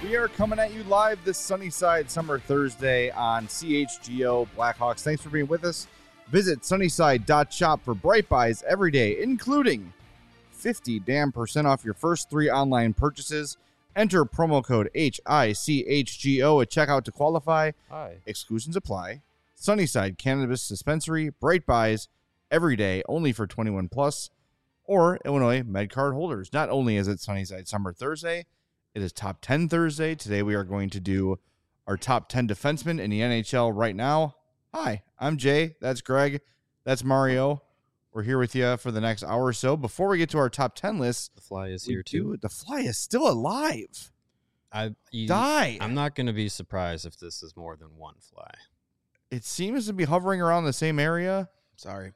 We are coming at you live this Sunnyside Summer Thursday on CHGO Blackhawks. Thanks for being with us. Visit sunnyside.shop for Bright Buys every day, including 50% off your first 3 online purchases. Enter promo code HICHGO at checkout to qualify. Exclusions apply. Sunnyside Cannabis Dispensary, Bright Buys every day, only for 21 plus, or Illinois MedCard holders. Not only is it Sunnyside Summer Thursday, it is Top 10 Thursday. Today we are going to do our top 10 defensemen in the NHL right now. Hi, I'm Jay. That's Greg. That's Mario. We're here with you for the next hour or so. Before we get to our top 10 list, the Fly is here too. The Fly is still alive. I'm not going to be surprised if this is more than one Fly. It seems to be hovering around the same area. Sorry.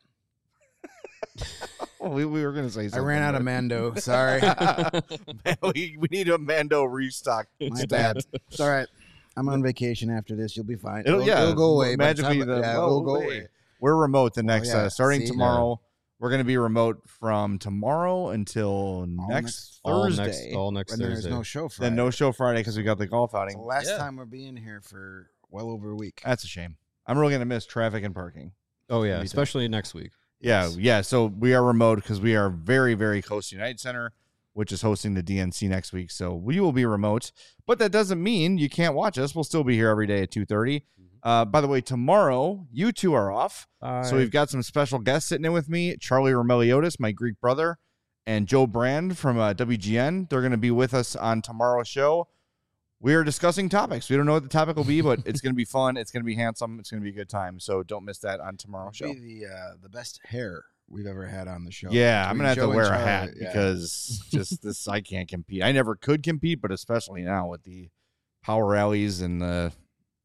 we were going to say something. I ran out of Mando. Sorry. we need a Mando restock. My bad. It's all right. I'm on vacation after this. You'll be fine. It'll go away. Magically, it'll go away. We're remote the next, starting tomorrow. We're going to be remote from tomorrow until next Thursday. All next Thursday. There's no show Friday. Then no show Friday because we got the golf outing. It's the last time we're being here for well over a week. That's a shame. I'm really going to miss traffic and parking. Oh, yeah, especially next week. Yeah. So we are remote because we are very, very close to United Center, which is hosting the DNC next week. So we will be remote, but that doesn't mean you can't watch us. We'll still be here every day at 2:30. By the way, tomorrow you two are off, so we've got some special guests sitting in with me: Charlie Romeliotis, my Greek brother, and Joe Brand from WGN. They're going to be with us on tomorrow's show. We are discussing topics. We don't know what the topic will be, but it's going to be fun. It's going to be handsome. It's going to be a good time. So don't miss that on tomorrow's show. It'll be the best hair we've ever had on the show. Yeah, I'm going to have to wear a hat because just this, I can't compete. I never could compete, but especially now with the power rallies and the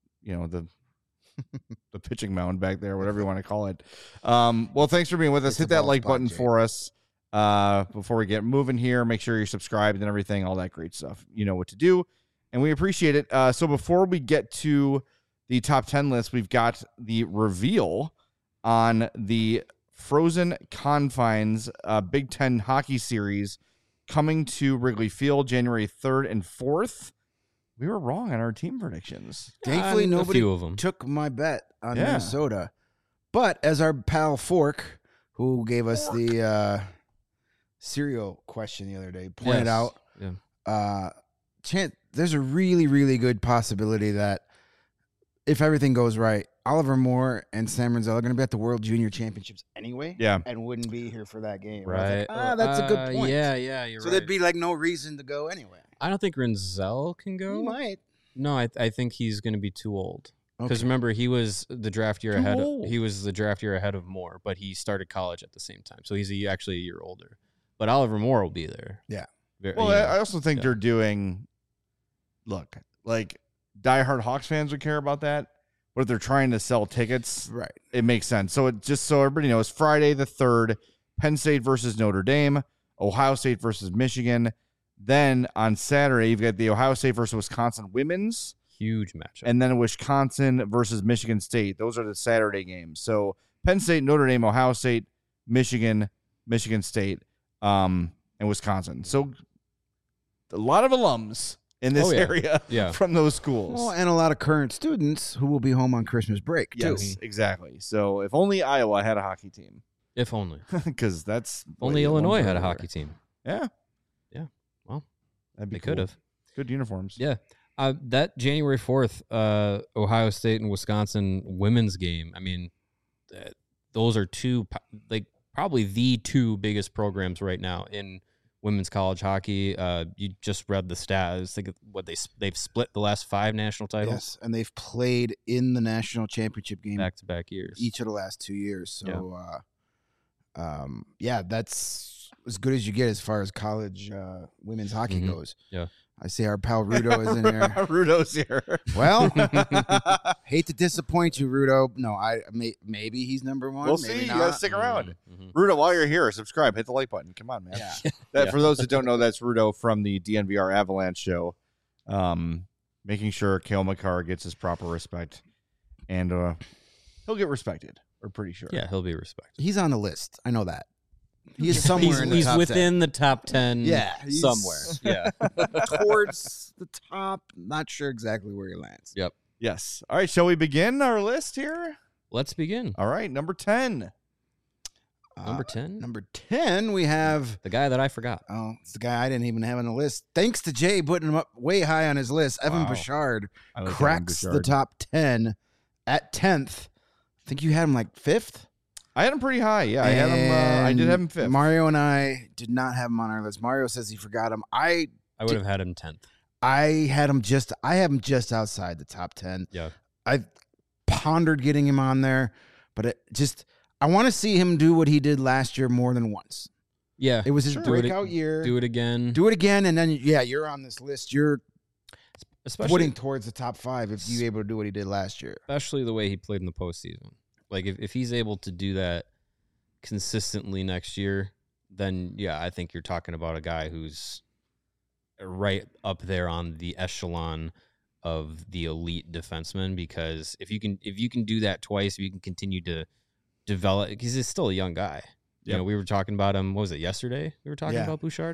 pitching mound back there, whatever you want to call it. Well, thanks for being with us. Hit that like button for us before we get moving here. Make sure you're subscribed and everything, all that great stuff. You know what to do. And we appreciate it. So before we get to the top 10 list, we've got the reveal on the Frozen Confines Big Ten Hockey Series coming to Wrigley Field January 3rd and 4th. We were wrong on our team predictions. Thankfully, nobody took my bet on Minnesota. But as our pal Fork, who gave us the cereal question the other day, pointed out, there's a really, really good possibility that if everything goes right, Oliver Moore and Sam Renzel are going to be at the World Junior Championships anyway, and wouldn't be here for that game. Right? That's a good point. Yeah, you're right. So there'd be like no reason to go anyway. I don't think Renzel can go. He might. No, I think he's going to be too old. Because remember, he was the draft year ahead. He was the draft year ahead of Moore, but he started college at the same time, so he's actually a year older. But Oliver Moore will be there. Yeah. I also think they're doing. Look, like diehard Hawks fans would care about that, but if they're trying to sell tickets, right, it makes sense. So it just so everybody knows, Friday the 3rd, Penn State versus Notre Dame, Ohio State versus Michigan. Then on Saturday, you've got the Ohio State versus Wisconsin women's. Huge matchup. And then Wisconsin versus Michigan State. Those are the Saturday games. So Penn State, Notre Dame, Ohio State, Michigan, Michigan State, and Wisconsin. So a lot of alums in this area from those schools. Well, and a lot of current students who will be home on Christmas break, too. Yes, exactly. So if only Iowa had a hockey team. If only. Because that's... Only Illinois had a hockey team. Yeah. Well, they could have. Good uniforms. Yeah. That January 4th, Ohio State and Wisconsin women's game, I mean, those are probably the two biggest programs right now in women's college hockey. You just read the stats. Think what they've split the last 5 national titles. Yes, and they've played in the national championship game back-to-back years, each of the last 2 years. So, that's as good as you get as far as college women's hockey goes. Yeah, I see our pal Rudo is in here. Rudo's here. Well, hate to disappoint you, Rudo. No, maybe he's number one. We'll maybe see. not. You gotta stick around. Rudo, while you're here, subscribe. Hit the like button. Come on, man. Yeah. For those that don't know, that's Rudo from the DNVR Avalanche show. Making sure Cale Makar gets his proper respect. And he'll get respected. We're pretty sure. Yeah, he'll be respected. He's on the list. I know that. He's somewhere in the he's top within 10. the top 10 Yeah, somewhere. Yeah. Towards the top. Not sure exactly where he lands. Yep. Yes. All right. Shall we begin our list here? Let's begin. All right. Number 10. Number 10? Number 10, we have... The guy that I forgot. Oh, it's the guy I didn't even have on the list. Thanks to Jay putting him up way high on his list. Evan Bouchard cracks the top 10 at 10th. I think you had him like 5th? I had him pretty high. Yeah, I had him. I did have him 5th. Mario and I did not have him on our list. Mario says he forgot him. I would have had him 10th. I have him just outside the top 10. Yeah. I pondered getting him on there, but I want to see him do what he did last year more than once. Yeah. It was his breakout year. Do it again. And then, you're on this list. You're putting towards the top 5 if you're able to do what he did last year. Especially the way he played in the postseason. Like, if he's able to do that consistently next year, then, yeah, I think you're talking about a guy who's right up there on the echelon of the elite defenseman, because if you can do that twice, if you can continue to develop, because he's still a young guy. You know, we were talking about him, what was it, yesterday? We were talking about Bouchard.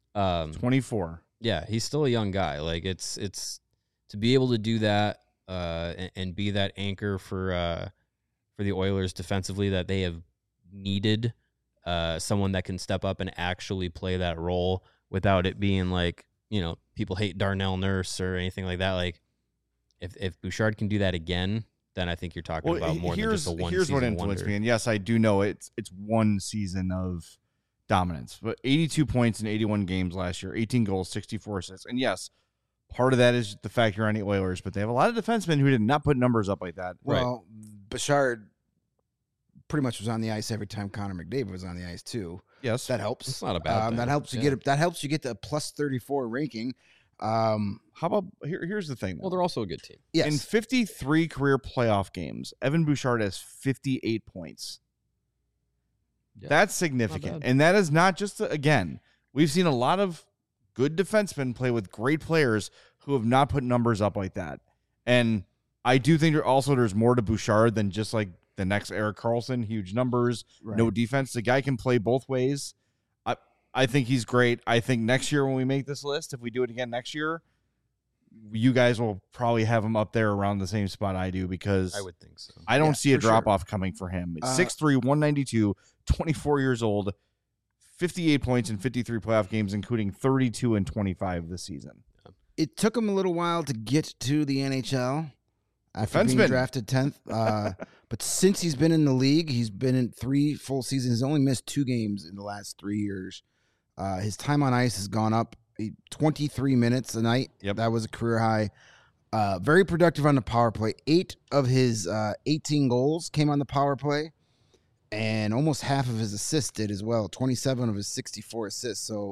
24. Yeah, he's still a young guy. Like, it's to be able to do that and be that anchor for the Oilers defensively that they have needed, someone that can step up and actually play that role without it being like, people hate Darnell Nurse or anything like that. Like, if Bouchard can do that again, then I think you're talking about more than just a one season wonder. Here's what influenced me, and yes, I do know it's one season of dominance, but 82 points in 81 games last year, 18 goals, 64 assists, and yes, part of that is the fact you're on the Oilers, but they have a lot of defensemen who did not put numbers up like that. Well, Bouchard pretty much was on the ice every time Connor McDavid was on the ice too. Yes, that helps. It's not a bad thing. That helps you get. That helps you get the plus 34 ranking. How about here's the thing, though. Well, they're also a good team. Yes. In 53 career playoff games, Evan Bouchard has 58 points. Yeah, that's significant. And that is not just, again, we've seen a lot of good defensemen play with great players who have not put numbers up like that. And I do think there's more to Bouchard than just like the next Erik Karlsson, huge numbers, no defense. The guy can play both ways. I think he's great. I think next year when we make this list, if we do it again next year, you guys will probably have him up there around the same spot I do, because I would think so. I don't see a drop-off coming for him. 6'3", 192, 24 years old, 58 points in 53 playoff games, including 32 and 25 this season. It took him a little while to get to the NHL after being drafted 10th. But since he's been in the league, he's been in 3 full seasons. He's only missed 2 games in the last 3 years. His time on ice has gone up 23 minutes a night. Yep. That was a career high. Very productive on the power play. 8 of his 18 goals came on the power play, and almost half of his assists did as well. 27 of his 64 assists. So,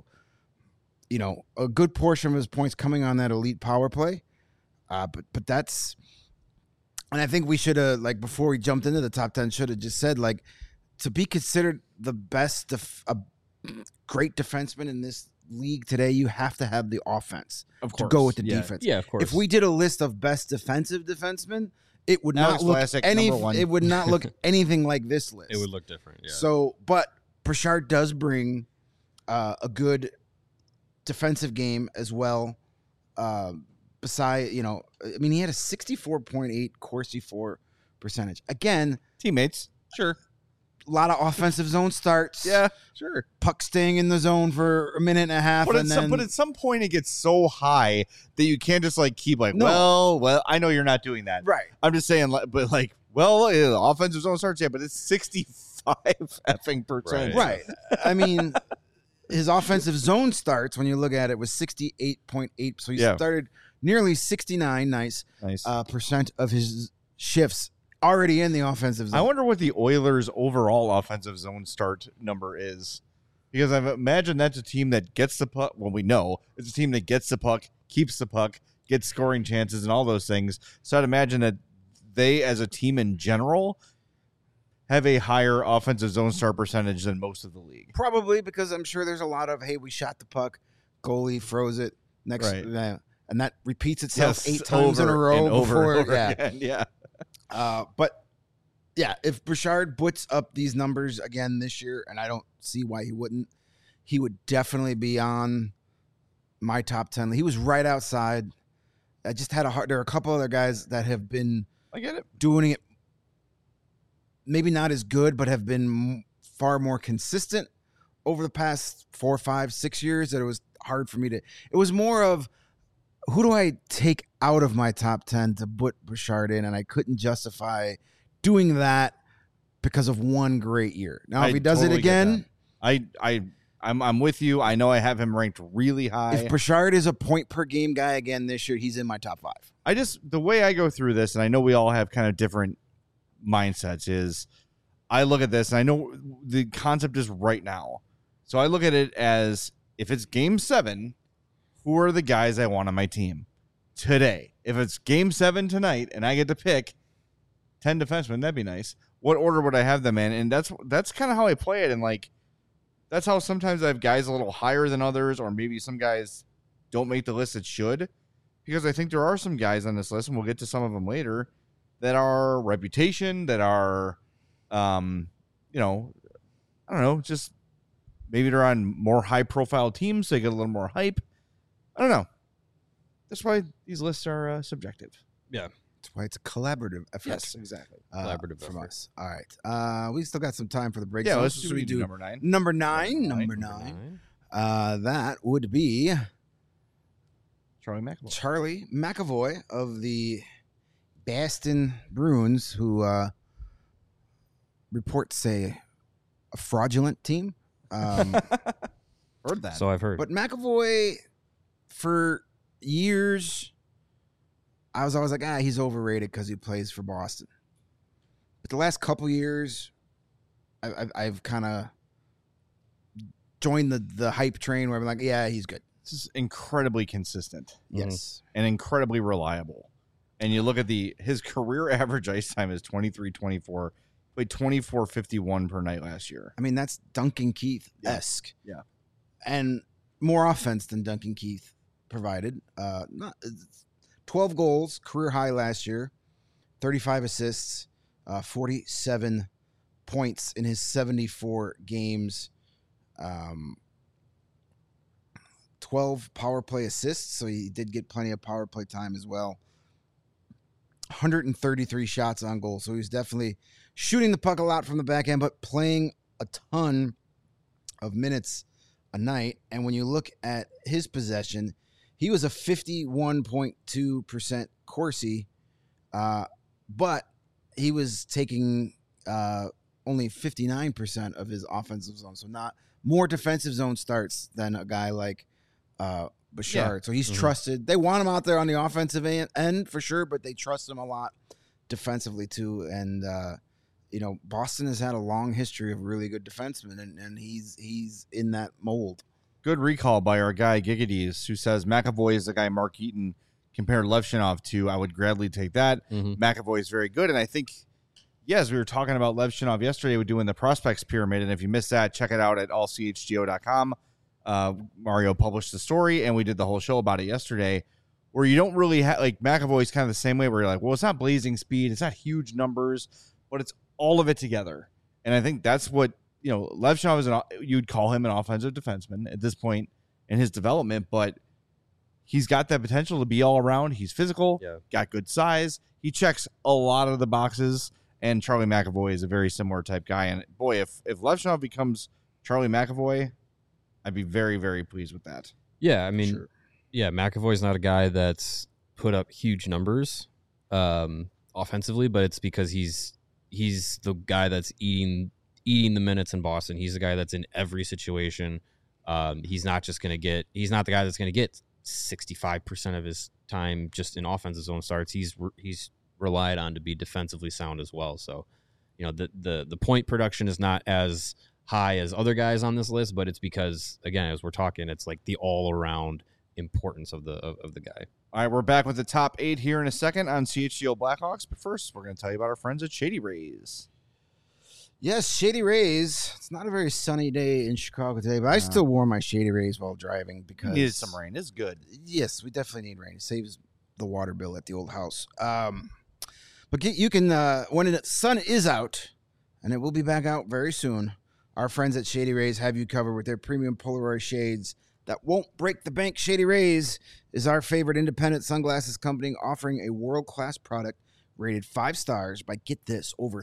a good portion of his points coming on that elite power play. But that's, and I think we should have, like, before we jumped into the top 10, should have just said, like, to be considered the best, great defenseman in this league today, you have to have the offense to go with the defense. Yeah, of course. If we did a list of best defensive defensemen, it would not look it would not look anything like this list. It would look different. Yeah. So, but Bouchard does bring a good defensive game as well. Beside, he had a 64.8 Corsi for percentage. Again, teammates, sure. A lot of offensive zone starts. Yeah, sure. Puck staying in the zone for a minute and a half. But at some point it gets so high that you can't just keep well, I know you're not doing that. Right. I'm just saying, but offensive zone starts, but it's 65 effing percent. Right. I mean, his offensive zone starts, when you look at it, was 68.8. So he started nearly 69 percent of his shifts already in the offensive zone. I wonder what the Oilers' overall offensive zone start number is, because I imagine that's a team that gets the puck. Well, we know it's a team that gets the puck, keeps the puck, gets scoring chances, and all those things. So I'd imagine that they, as a team in general, have a higher offensive zone start percentage than most of the league. Probably because I'm sure there's a lot of, hey, we shot the puck, goalie froze it, and that repeats itself 8 times in a row over again. Yeah. But Yeah, if Bouchard puts up these numbers again this year, and I don't see why he wouldn't, he would definitely be on my top 10. He was right outside. I just had there are a couple other guys that have been I get it. doing it maybe not as good, but have been far more consistent over the past 4, 5, 6 years that it was hard for me to. It was more of who do I take out of my top 10 to put Bouchard in, and I couldn't justify doing that because of one great year. Now, if he does it again, I'm with you. I know I have him ranked really high. if Bouchard is a point per game guy again this year, he's in my top 5. The way I go through this, and I know we all have kind of different mindsets, is I look at this and I know the concept is right now. So I look at it as if it's game 7, who are the guys I want on my team today? If it's game 7 tonight and I get to pick 10 defensemen, that'd be nice. What order would I have them in? And that's kind of how I play it. And like, that's how sometimes I have guys a little higher than others, or maybe some guys don't make the list that should, because I think there are some guys on this list, and we'll get to some of them later, that are reputation, that are, I don't know, just maybe they're on more high-profile teams, so they get a little more hype. I don't know. That's why these lists are subjective. Yeah. That's why it's a collaborative effort. Yes, exactly. Collaborative from effort. us. All right. We still got some time for the break. Yeah, zone. let's Should we do number 9. Number nine. That would be Charlie McAvoy. Charlie McAvoy of the Boston Bruins, who reports say a fraudulent team. Heard that. So I've heard. But McAvoy, for years, I was always like, he's overrated because he plays for Boston. But the last couple years, I've kind of joined the hype train where I'm like, yeah, he's good. This is incredibly consistent. Yes. And incredibly reliable. And you look at his career average ice time is 23-24, played 24-51 per night last year. I mean, that's Duncan Keith-esque. Yeah. And more offense than Duncan Keith provided. 12 goals, career high last year, 35 assists, 47 points in his 74 games, 12 power play assists, so he did get plenty of power play time as well. 133 shots on goal, so he's definitely shooting the puck a lot from the back end, but playing a ton of minutes a night. And when you look at his possession, he was a 51.2% Corsi, but he was taking only 59% of his offensive zone, so not more defensive zone starts than a guy like Bouchard. So he's trusted. They want him out there on the offensive end for sure, but they trust him a lot defensively too. And Boston has had a long history of really good defensemen, and he's in that mold. Good recall by our guy Gigadees, who says McAvoy is the guy Mark Eaton compared Levchinov to. I would gladly take that. McAvoy is very good, and I think, yes, we were talking about Levchinov yesterday. We're doing the prospects pyramid, and if you missed that, check it out at allchgo.com. Mario published the story, and we did the whole show about it yesterday, where you don't really have, like, McAvoy's kind of the same way, where you're like, well, it's not blazing speed, it's not huge numbers, but it's all of it together. And I think that's what, Levchinov is you'd call him an offensive defenseman at this point in his development, but he's got that potential to be all around. He's physical, got good size. He checks a lot of the boxes, and Charlie McAvoy is a very similar type guy. And boy, if Levchinov becomes Charlie McAvoy, I'd be very, very pleased with that. Yeah, I mean, McAvoy's not a guy that's put up huge numbers offensively, but it's because he's the guy that's eating the minutes in Boston. He's the guy that's in every situation. He's not the guy that's going to get 65% of his time just in offensive zone starts. He's relied on to be defensively sound as well. So, the point production is not as high as other guys on this list, but it's because, again, as we're talking, it's like the all around importance of the guy. All right, we're back with the top 8 here in a second on CHGO Blackhawks, but first we're going to tell you about our friends at Shady Rays. Yes, Shady Rays. It's not a very sunny day in Chicago today, but I still wore my Shady Rays while driving because needed some rain. It's good. Yes, we definitely need rain. It saves the water bill at the old house. But you can, when the sun is out, and it will be back out very soon, our friends at Shady Rays have you covered with their premium Polaroid shades that won't break the bank. Shady Rays is our favorite independent sunglasses company, offering a world-class product rated 5 stars by, get this, over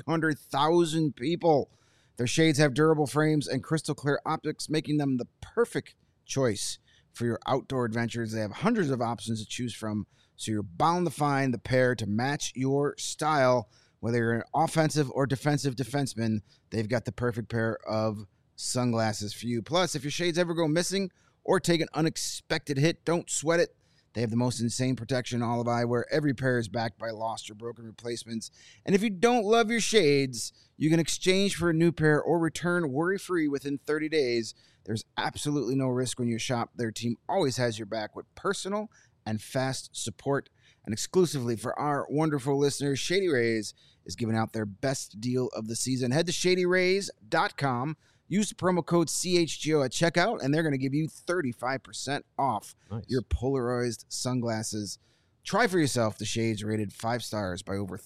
300,000 people. Their shades have durable frames and crystal clear optics, making them the perfect choice for your outdoor adventures. They have hundreds of options to choose from, so you're bound to find the pair to match your style. Whether you're an offensive or defensive defenseman, they've got the perfect pair of sunglasses for you. Plus, if your shades ever go missing or take an unexpected hit, don't sweat it. They have the most insane protection in all of eyewear. Every pair is backed by lost or broken replacements. And if you don't love your shades, you can exchange for a new pair or return worry-free within 30 days. There's absolutely no risk when you shop. Their team always has your back with personal and fast support. And exclusively for our wonderful listeners, Shady Rays is giving out their best deal of the season. Head to shadyrays.com. Use the promo code CHGO at checkout, and they're going to give you 35% off your polarized sunglasses. Try for yourself the shades rated 5 stars by over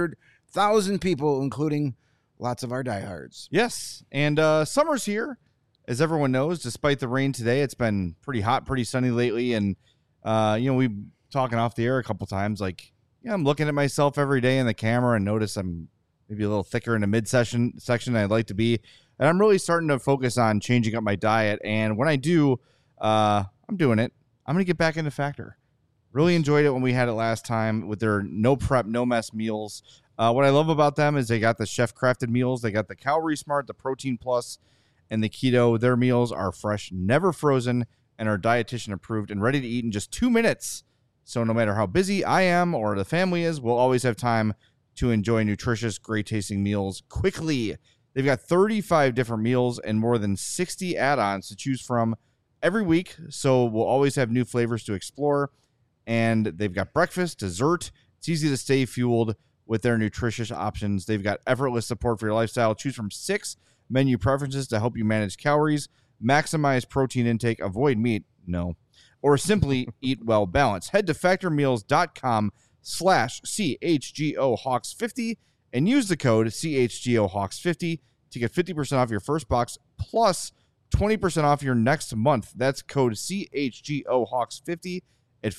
300,000 people, including lots of our diehards. Yes, and summer's here, as everyone knows. Despite the rain today, it's been pretty hot, pretty sunny lately, and we've talking off the air a couple times. Like, I'm looking at myself every day in the camera and notice I'm maybe a little thicker in the midsection section than I'd like to be. And I'm really starting to focus on changing up my diet. And when I do, I'm doing it. I'm going to get back into Factor. Really enjoyed it when we had it last time with their no prep, no mess meals. What I love about them is they got the chef crafted meals. They got the Calorie Smart, the Protein Plus, and the Keto. Their meals are fresh, never frozen, and are dietitian approved and ready to eat in just 2 minutes. So no matter how busy I am or the family is, we'll always have time to enjoy nutritious, great-tasting meals quickly. They've got 35 different meals and more than 60 add-ons to choose from every week, so we'll always have new flavors to explore. And they've got breakfast, dessert. It's easy to stay fueled with their nutritious options. They've got effortless support for your lifestyle. Choose from 6 menu preferences to help you manage calories, maximize protein intake, avoid meat, or simply eat well balanced. Head to factormeals.com/CHGOHawks50 and use the code CHGOHawks50 to get 50% off your first box plus 20% off your next month. That's code CHGOHawks50 at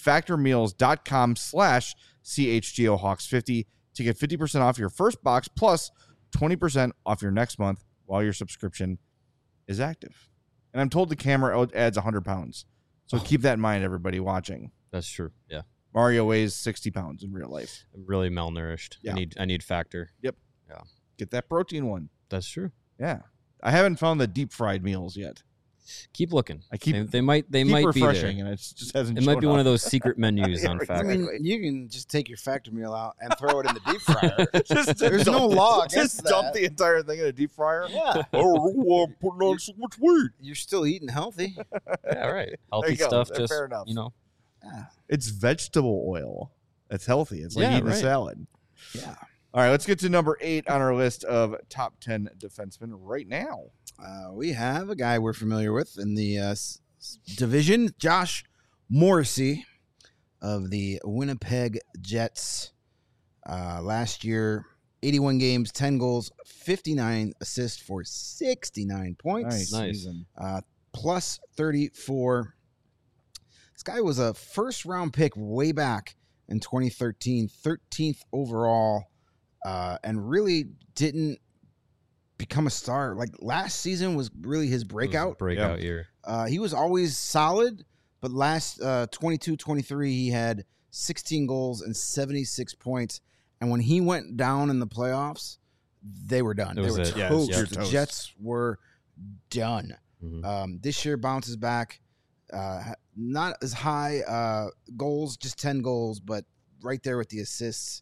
factormeals.com/CHGOHawks50 to get 50% off your first box plus 20% off your next month while your subscription is active. And I'm told the camera adds 100 pounds. So keep that in mind, everybody watching. That's true. Yeah. Mario weighs 60 pounds in real life. I'm really malnourished. Yeah. I need Factor. Yep. Yeah. Get that protein one. That's true. Yeah. I haven't found the deep fried meals yet. Keep looking. I keep they might be refreshing, there. And it just hasn't. It might be one of those secret menus on Factor. I mean, you can just take your Factor meal out and throw it in the deep fryer. There's no law against Just dump that. the entire thing in a deep fryer. Yeah. Oh, I'm putting on so much weight. You're still eating healthy. Yeah, right. There Healthy you go. stuff. Just Fair enough. Yeah. It's vegetable oil. It's healthy. It's like eating a salad. Yeah. All right, let's get to number 8 on our list of top 10 defensemen right now. We have a guy we're familiar with in the division, Josh Morrissey of the Winnipeg Jets. Last year, 81 games, 10 goals, 59 assists for 69 points. Nice. Plus 34. This guy was a first-round pick way back in 2013, 13th overall, and really didn't become a star. Like, last season was really his breakout. Year. He was always solid, but last 22-23, he had 16 goals and 76 points. And when he went down in the playoffs, they were done. They were toast. The Jets were done. Mm-hmm. This year bounces back. Not as high goals, just 10 goals, but right there with the assists.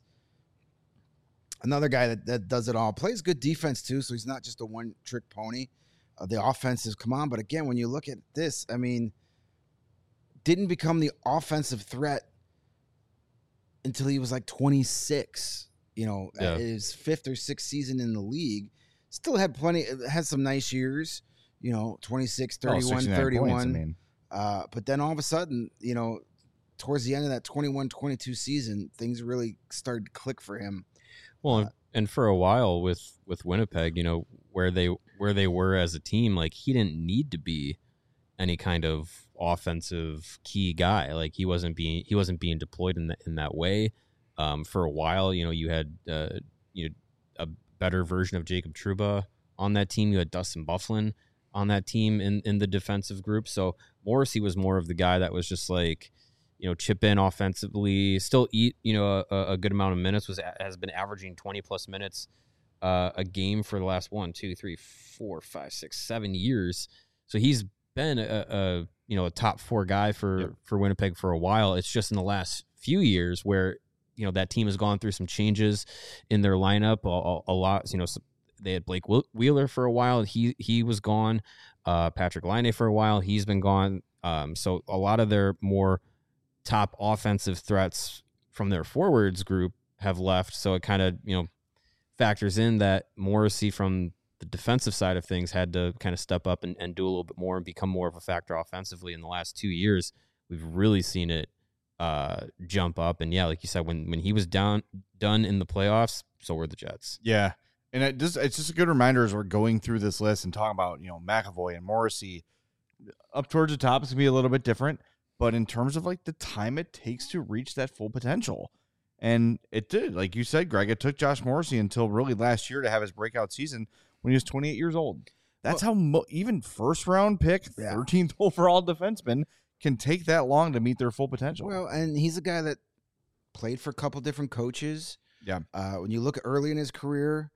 Another guy that does it all. Plays good defense, too, so he's not just a one-trick pony. The offense has come on, but again, when you look at this, I mean, didn't become the offensive threat until he was like 26, his 5th or 6th season in the league. Still had some nice years, 26, 31, 31. Points, I mean. But then all of a sudden, towards the end of that 21-22 season, things really started to click for him. Well, and for a while with Winnipeg, where they were as a team, like he didn't need to be any kind of offensive key guy. Like he wasn't being deployed in that way. For a while, you had a better version of Jacob Trouba on that team. You had Dustin Byfuglien on that team in the defensive group. So Morrissey was more of the guy that was just like, chip in offensively, still eat, a good amount of minutes, has been averaging 20 plus minutes a game for the last 1, 2, 3, 4, 5, 6, 7 years. So he's been a top 4 guy for Winnipeg for a while. It's just in the last few years where, that team has gone through some changes in their lineup a lot. They had Blake Wheeler for a while. He was gone. Patrick Laine for a while. He's been gone. So a lot of their more top offensive threats from their forwards group have left. So it kind of, factors in that Morrissey from the defensive side of things had to kind of step up and do a little bit more and become more of a factor offensively. In the last 2 years, we've really seen it jump up. And yeah, like you said, when he was done in the playoffs, so were the Jets. Yeah. And it's just a good reminder as we're going through this list and talking about, McAvoy and Morrissey up towards the top is going to be a little bit different. But in terms of like the time it takes to reach that full potential, and it did, like you said, Greg, it took Josh Morrissey until really last year to have his breakout season when he was 28 years old. That's how even first round pick, 13th overall defenseman can take that long to meet their full potential. Well, and he's a guy that played for a couple different coaches. Yeah. When you look early in his career,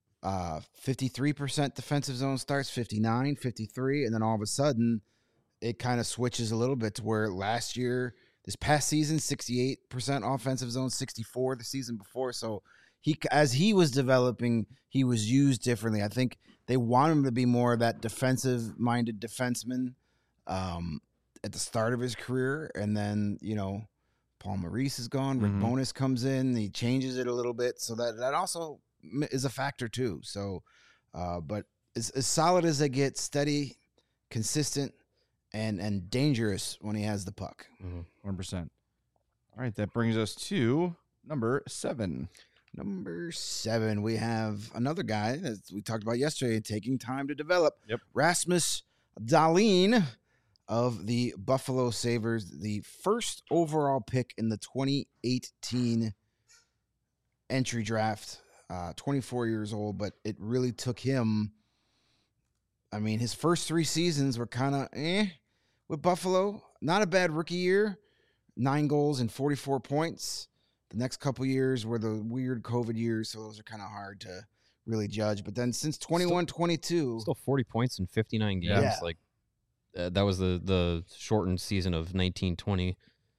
53% defensive zone starts, 59, 53, and then all of a sudden it kind of switches a little bit to where this past season, 68% offensive zone, 64 the season before. So as he was developing, he was used differently. I think they want him to be more of that defensive-minded defenseman at the start of his career. And then, Paul Maurice is gone. Rick Bowness comes in. He changes it a little bit. So that also is a factor too. So, but as solid as they get, steady, consistent, and dangerous when he has the puck. 100%. All right, that brings us to number 7. Number 7, we have another guy that we talked about yesterday, taking time to develop. Yep. Rasmus Dahlin of the Buffalo Sabres, the first overall pick in the 2018 entry draft. 24 years old, but it really took him. I mean, his first 3 seasons were kind of with Buffalo. Not a bad rookie year, 9 goals and 44 points. The next couple years were the weird COVID years, so those are kind of hard to really judge. But then since 21-22, still 40 points in 59 games. Yeah. Like that was the shortened season of 1920.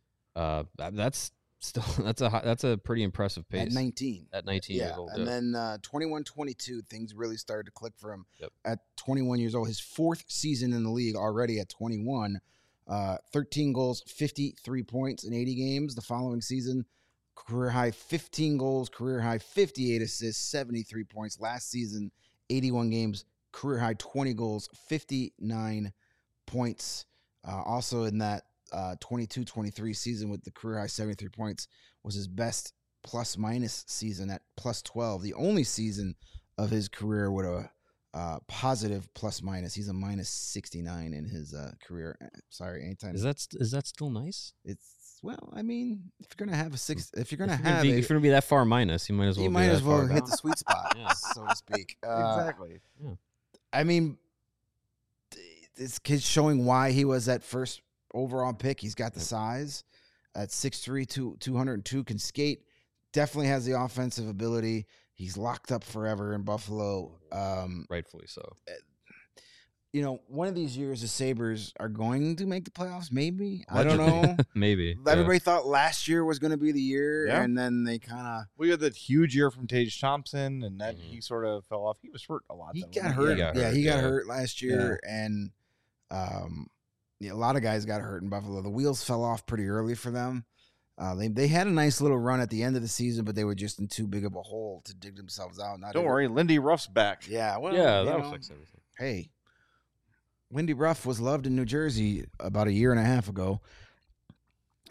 That's a pretty impressive pace. at 19. At 19 years old. And then 21-22, things really started to click for him. Yep. At 21 years old, his 4th season in the league already at 21. 13 goals, 53 points in 80 games. The following season, career high 15 goals, career high 58 assists, 73 points. Last season, 81 games, career high 20 goals, 59 points. Also in that 22-23 season with the career high 73 points was his best plus-minus season at plus 12. The only season of his career with a positive plus-minus. He's a minus 69 in his career. Sorry, anytime. Is that still nice? Well, I mean, if you're gonna have if you're gonna be that far minus, you might as well. Hit the sweet spot, so to speak. Exactly. Yeah. I mean, this kid's showing why he was that first overall pick. He's got the size at 6'3", 202, can skate. Definitely has the offensive ability. He's locked up forever in Buffalo. Rightfully so. One of these years the Sabres are going to make the playoffs, maybe. I don't know. Maybe. Everybody thought last year was going to be the year, Yeah. and then they kind of... We had that huge year from Tage Thompson, and then he sort of fell off. He was hurt a lot. He though, got wasn't hurt. He got hurt last year, and a lot of guys got hurt in Buffalo. The wheels fell off pretty early for them. They had a nice little run at the end of the season, but they were just in too big of a hole to dig themselves out. Don't worry, Lindy Ruff's back. Yeah, well, That'll fix everything. Hey, Lindy Ruff was loved in New Jersey about a year and a half ago.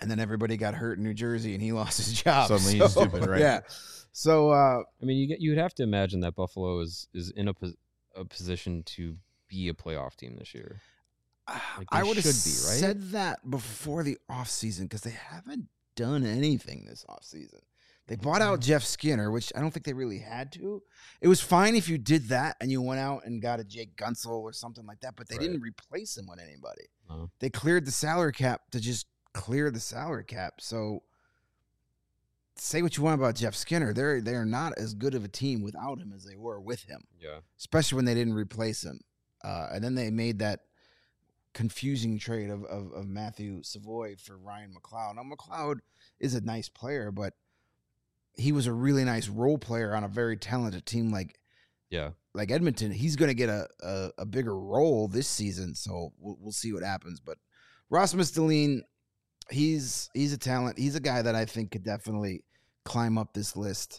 and then everybody got hurt in New Jersey, and he lost his job. Suddenly he's stupid, right? Yeah. So I mean, you'd have to imagine that Buffalo is in a position to be a playoff team this year. Like I they would have should be, right? said that before the offseason because they haven't done anything this offseason. They bought out Jeff Skinner, which I don't think they really had to. It was fine if you did that and you went out and got a Jake Gunsel or something like that, but they didn't replace him with anybody. They cleared the salary cap to just clear the salary cap. So say what you want about Jeff Skinner. They're not as good of a team without him as they were with him. Yeah. Especially when they didn't replace him. And then they made that confusing trade of Matthew Savoy for Ryan McLeod. Now, McLeod is a nice player, but he was a really nice role player on a very talented team like Edmonton. He's going to get a bigger role this season, so we'll see what happens. But Rasmus Dahlin, he's a talent. He's a guy that I think could definitely climb up this list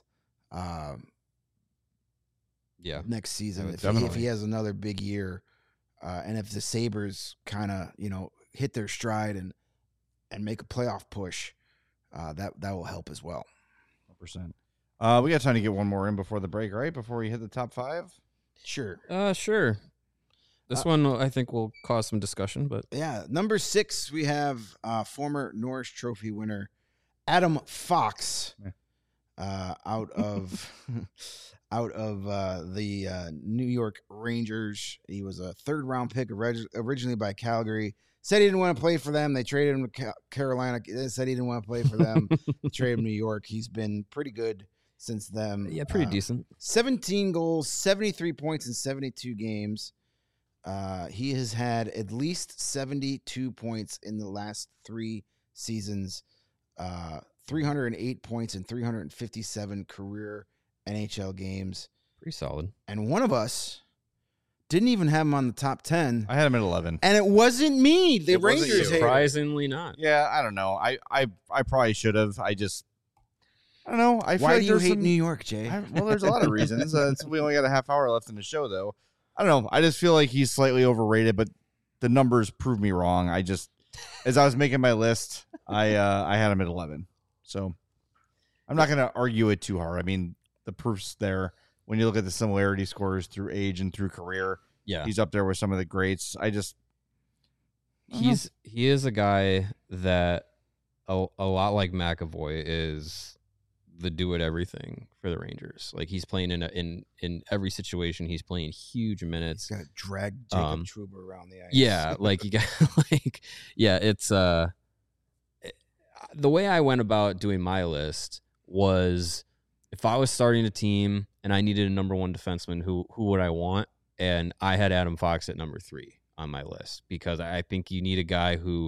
next season if he has another big year. And if the Sabres kind of, hit their stride and make a playoff push, that will help as well. 100%. We got time to get one more in before the break, right? Before we hit the top 5? Sure. Sure. This one I think will cause some discussion, but yeah. Number 6, we have former Norris Trophy winner Adam Fox out of the New York Rangers. He was a 3rd-round pick originally by Calgary. Said he didn't want to play for them. They traded him to Carolina. They said he didn't want to play for them. Traded him to New York. He's been pretty good since then. Yeah, pretty decent. 17 goals, 73 points in 72 games. He has had at least 72 points in the last 3 seasons. 308 points in 357 career NHL games. Pretty solid. And one of us didn't even have him on the top 10. I had him at 11. And it wasn't me. The Rangers hated him. Surprisingly not. Yeah, I don't know. I probably should have. I don't know. I feel Why like do you there's hate New York, Jay? Well, there's a lot of reasons. We only got a half hour left in the show, though. I don't know. I just feel like he's slightly overrated, but the numbers prove me wrong. As I was making my list, I had him at 11. So I'm not going to argue it too hard. I mean, the proof's there. When you look at the similarity scores through age and through career, he's up there with some of the greats. He is a guy that a lot like McAvoy is the do it everything for the Rangers. Like he's playing in every situation. He's playing huge minutes. He's got to drag Jacob Trouba around the ice. Yeah, like you got it's the way I went about doing my list was if I was starting a team and I needed a number 1 defenseman, who would I want? And I had Adam Fox at number 3 on my list because I think you need a guy who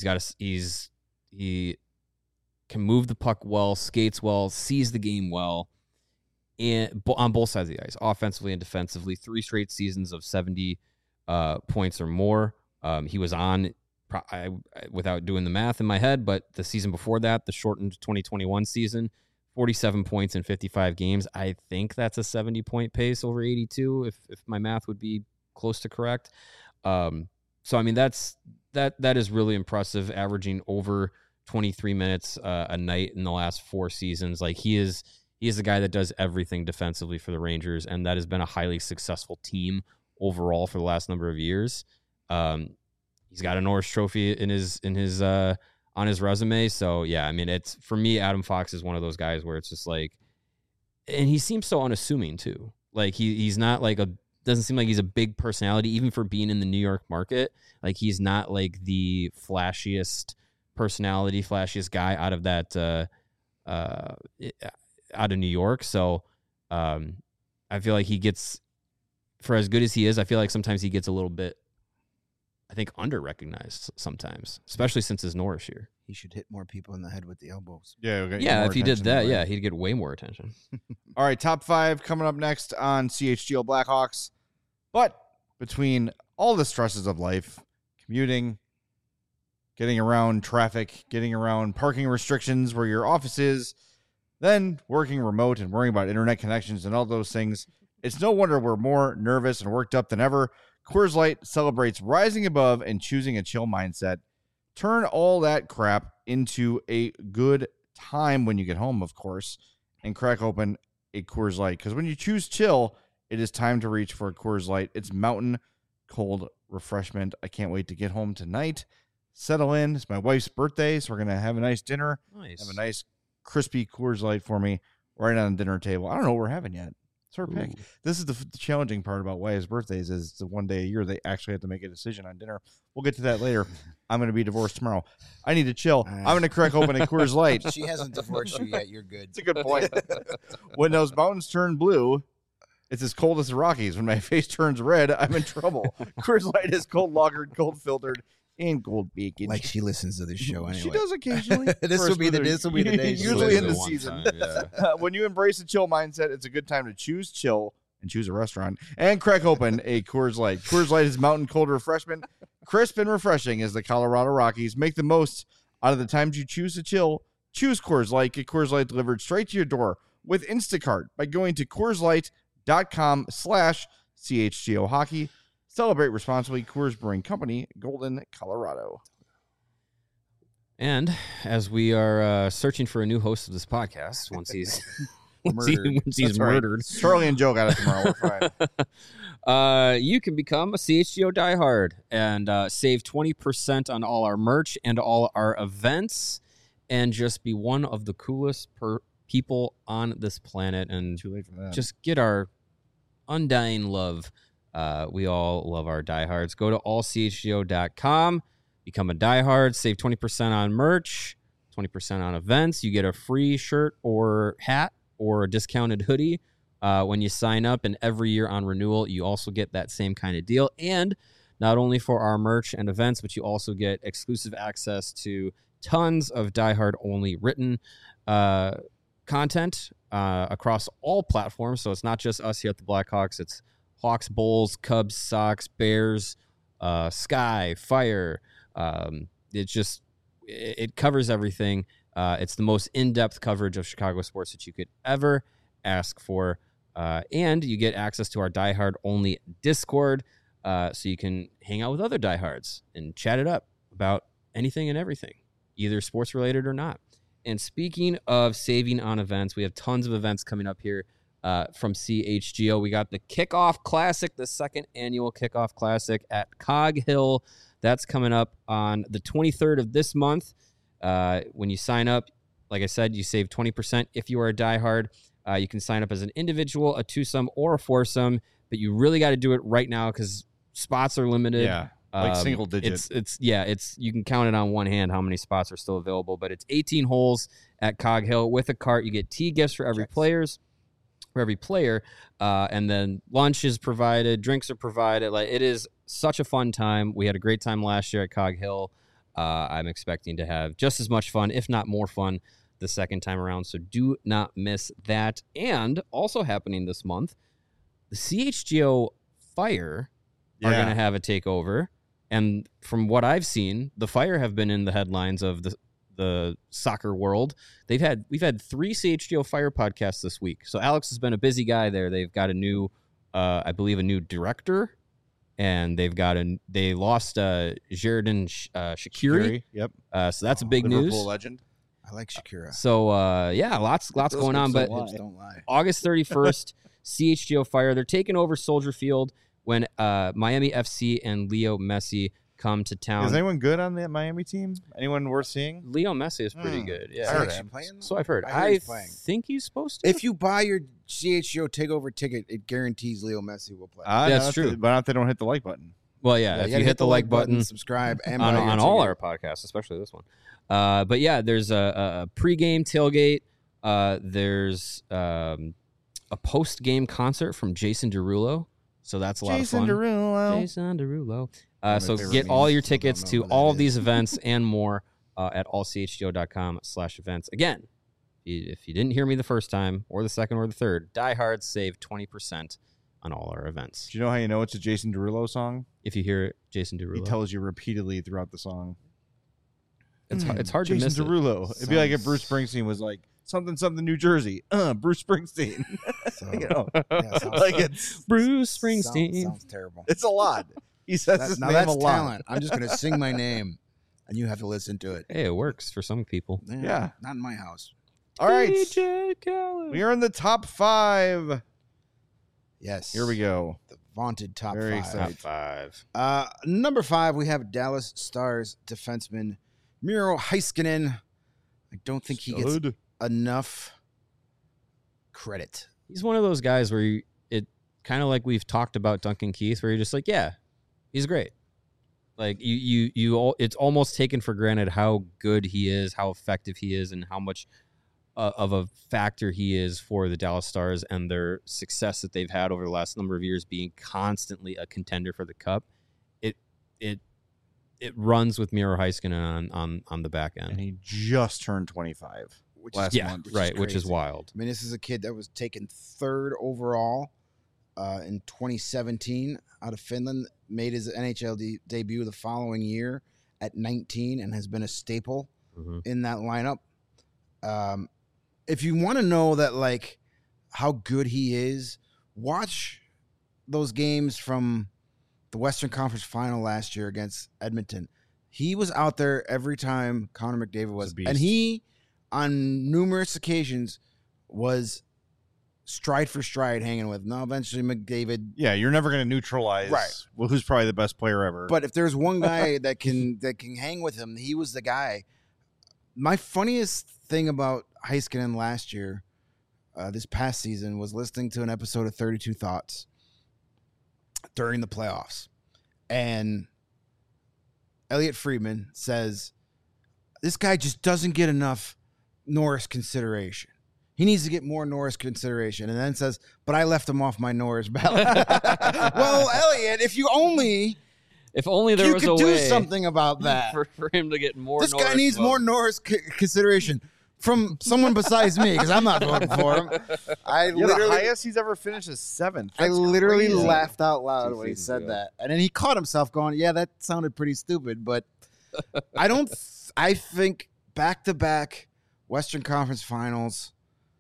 he can move the puck well, skates well, sees the game well, and on both sides of the ice, offensively and defensively. 3 straight seasons of 70 points or more. He was on, without doing the math in my head, but the season before that, the shortened 2021 season, 47 points in 55 games. I think that's a 70-point pace over 82, if my math would be close to correct. So I mean that is really impressive, averaging over 23 minutes a night in the last 4 seasons. Like he is the guy that does everything defensively for the Rangers, and that has been a highly successful team overall for the last number of years. He's got a Norris Trophy in his on his resume. So yeah, I mean, it's for me, Adam Fox is one of those guys where it's just like, and he seems so unassuming too. Like he's not like doesn't seem like he's a big personality, even for being in the New York market. Like he's not like the flashiest personality, flashiest guy out of that out of New York. So I feel like he gets, for as good as he is, I feel like sometimes he gets a little bit, I think, under-recognized sometimes, especially since his Norris year. He should hit more people in the head with the elbows. Yeah, if he did that, he'd get way more attention. All right, top 5 coming up next on CHGO Blackhawks. But between all the stresses of life, commuting, getting around traffic, getting around parking restrictions where your office is, then working remote and worrying about internet connections and all those things, it's no wonder we're more nervous and worked up than ever. Coors Light celebrates rising above and choosing a chill mindset. Turn all that crap into a good time when you get home, of course, and crack open a Coors Light. Because when you choose chill, it is time to reach for a Coors Light. It's mountain cold refreshment. I can't wait to get home tonight. Settle in. It's my wife's birthday, so we're going to have a nice dinner. Nice. Have a nice crispy Coors Light for me right on the dinner table. I don't know what we're having yet. It's her pick. This is the challenging part about wife's birthdays is the one day a year they actually have to make a decision on dinner. We'll get to that later. I'm going to be divorced tomorrow. I need to chill. I'm going to crack open a Coors Light. She hasn't divorced you yet. You're good. It's a good point. When those mountains turn blue, it's as cold as the Rockies. When my face turns red, I'm in trouble. Coors Light is cold lagered, cold filtered, and cold bacon. Like she listens to this show anyway. She does occasionally. This will be the day. Usually in the season. Time, yeah. When you embrace a chill mindset, it's a good time to choose chill and choose a restaurant and crack open a Coors Light. Coors Light is mountain cold refreshment. Crisp and refreshing as the Colorado Rockies. Make the most out of the times you choose to chill. Choose Coors Light. Get Coors Light delivered straight to your door with Instacart by going to CoorsLight.com/CHGO Hockey. Celebrate responsibly. Coors Brewing Company, Golden, Colorado. And as we are searching for a new host of this podcast, once he's Murdered. once he's That's right. murdered, Charlie and Joe got it tomorrow. We're fine. you can become a CHGO diehard and save 20% on all our merch and all our events, and just be one of the coolest people on this planet, and Too late for that. just get our undying love. We all love our diehards. Go to allchgo.com, become a diehard, save 20% on merch, 20% on events. You get a free shirt or hat or a discounted hoodie when you sign up, and every year on renewal, you also get that same kind of deal. And not only for our merch and events, but you also get exclusive access to tons of diehard-only written content across all platforms. So it's not just us here at the Blackhawks. It's Hawks, Bulls, Cubs, Sox, Bears, Sky, Fire. It covers everything. It's the most in-depth coverage of Chicago sports that you could ever ask for. And you get access to our diehard-only Discord, so you can hang out with other diehards and chat it up about anything and everything, either sports-related or not. And speaking of saving on events, we have tons of events coming up here from CHGO. We got the Kickoff Classic, the second annual Kickoff Classic at Cog Hill. That's coming up on the 23rd of this month. When you sign up, like I said, you save 20% if you are a diehard. You can sign up as an individual, a twosome, or a foursome, but you really got to do it right now because spots are limited. Yeah, like single digit. It's you can count it on one hand how many spots are still available, but it's 18 holes at Cog Hill with a cart. You get tee gifts for every player, and then lunch is provided, drinks are provided. Like, it is such a fun time. We had a great time last year at Cog Hill. I'm expecting to have just as much fun, if not more fun, the second time around. So do not miss that. And also happening this month, the CHGO Fire are going to have a takeover. And from what I've seen, the Fire have been in the headlines of the soccer world. We've had 3 CHGO Fire podcasts this week. So Alex has been a busy guy there. They've got a new, I believe, a new director, and they lost Sheridan Shaqiri. Yep. So that's a big Liverpool news. legend. I like Shakira. So lots going on. But Don't lie. August 31st, CHGO Fire, they're taking over Soldier Field when Miami FC and Leo Messi come to town. Is anyone good on the Miami team? Anyone worth seeing? Leo Messi is pretty good. Is Yeah, he heard actually him. playing? so I've heard. I heard I he's playing. think he's supposed to. If you buy your CHGO takeover ticket, it guarantees Leo Messi will play. That's true. But not if they don't hit the like button. Well, yeah, if gotta you hit the like button subscribe, and on buy your all ticket. our podcasts, especially this one. But yeah, there's a pregame tailgate. There's a post-game concert from Jason Derulo. So that's a lot of fun. Jason Derulo. my So favorite get all memes. your Still don't tickets know to who that all of is. these events and more at allchgo.com/events. Again, if you didn't hear me the first time or the second or the third, diehards save 20% on all our events. Do you know how you know it's a Jason Derulo song? If you hear Jason He Derulo, tells you repeatedly througut the song. it's hard to Jason miss it. Derulo. It'd be like if Sounds- Bruce Springsteen was like something New Jersey. Bruce Springsteen. So, You know, yeah, sounds, like it's Bruce Springsteen. sounds terrible. it's a lot. He says his Now name that's a lot. talent. I'm just gonna sing my name. and you have to listen to it. Hey, it works for some people. Yeah. Not in my house. All right. DJ Khaled. We are in the top 5. Yes. Here we go. The vaunted top Very 5. excited. Top 5. Number 5, we have Dallas Stars defenseman Miro Heiskanen. I don't think he gets Stud. enough credit. He's one of those guys where it kind of like we've talked about Duncan Keith, where you're just like, yeah, he's great. Like it's almost taken for granted how good he is, how effective he is, and how much of a factor he is for the Dallas Stars and their success that they've had over the last number of years, being constantly a contender for the Cup. It runs with Miro Heiskanen on the back And end. he just turned 25 Which last is, Yeah, month. right, which is crazy. wild. I mean, this is a kid that was taken 3rd overall in 2017 out of Finland, made his NHL debut the following year at 19 and has been a staple Mhm. in that lineup. If you want to know that, like, how good he is, watch those games from the Western Conference Final last year against Edmonton. He was out there every time Connor McDavid was, He's a beast. and he, on numerous occasions, was stride for stride hanging with. Now, eventually, McDavid. Yeah, you're never going to neutralize who's probably the best player ever. But if there's one guy that can hang with him, he was the guy. My funniest thing about Heiskanen last year, this past season, was listening to an episode of 32 Thoughts during the playoffs. And Elliot Friedman says, this guy just doesn't get enough Norris consideration. He needs to get more Norris consideration. And then says, but I left him off my Norris ballot. Well, Elliot, if only there you was could a do way something about that. for him to get more. This guy Norris needs more votes. Norris consideration from someone besides me, because I'm not voting for him. I the literally, highest he's ever finished is 7th. I That's literally crazy. laughed out loud 2 when he seasons said ago. that, and then he caught himself going, "Yeah, that sounded pretty stupid." But I don't. I think back-to-back Western Conference Finals.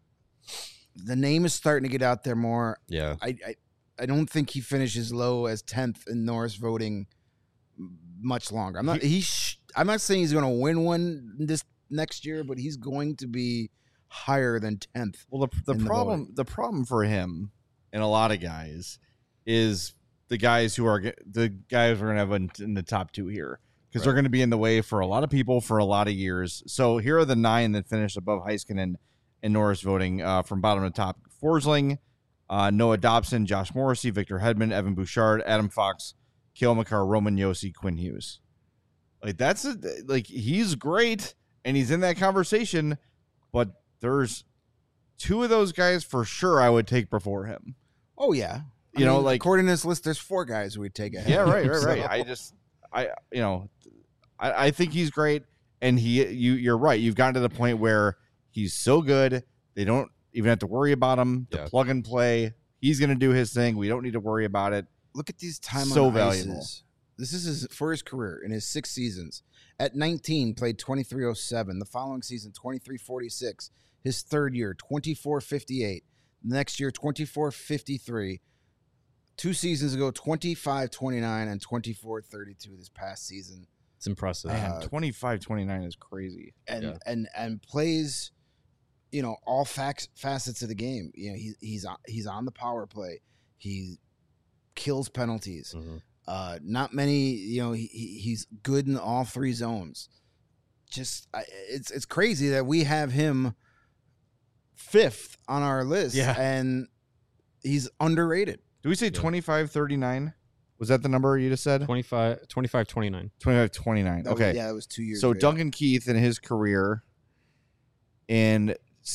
The name is starting to get out there more. Yeah. I don't think he finishes low as 10th in Norris voting much longer. I'm not. I'm not saying he's going to win one this next year, but he's going to be higher than 10th. Well, the in the problem for him and a lot of guys is the guys who are the guys we're going to have in the top 2 here, because they're going to be in the way for a lot of people for a lot of years. So here are the 9 that finished above Heiskanen and Norris voting from bottom to top: Forsling, Noah Dobson, Josh Morrissey, Victor Hedman, Evan Bouchard, Adam Fox, Cale Makar, Roman Josi, Quinn Hughes. Like he's great and he's in that conversation, but there's 2 of those guys for sure I would take before him. Oh yeah, You know, like- according to this list, there's 4 guys who would take ahead. Yeah, right. So- I think he's great, and you're right. You've gotten to the point where he's so good they don't even have to worry about him. The Yeah. plug and play, he's going to do his thing. We don't need to worry about it. Look at these time So on valuable. ices. This is for his career in his 6 seasons. At 19, played 2307. The following season, 2346. His third year, 2458. Next year, 2453. 2 seasons ago, 2529 and 2432 this past season. It's impressive. Man, 25-29 is crazy. And Yeah. and plays, all facets of the game. He's on the power play. He kills penalties. Mhm. Not many, he's good in all 3 zones. It's crazy that we have him 5th on our list. Yeah. And he's underrated. Do we say 25-39? Was that the number you just said? 25-29. 25-29. That was- Okay. yeah, it was 2 years So ago. Duncan Keith in his career in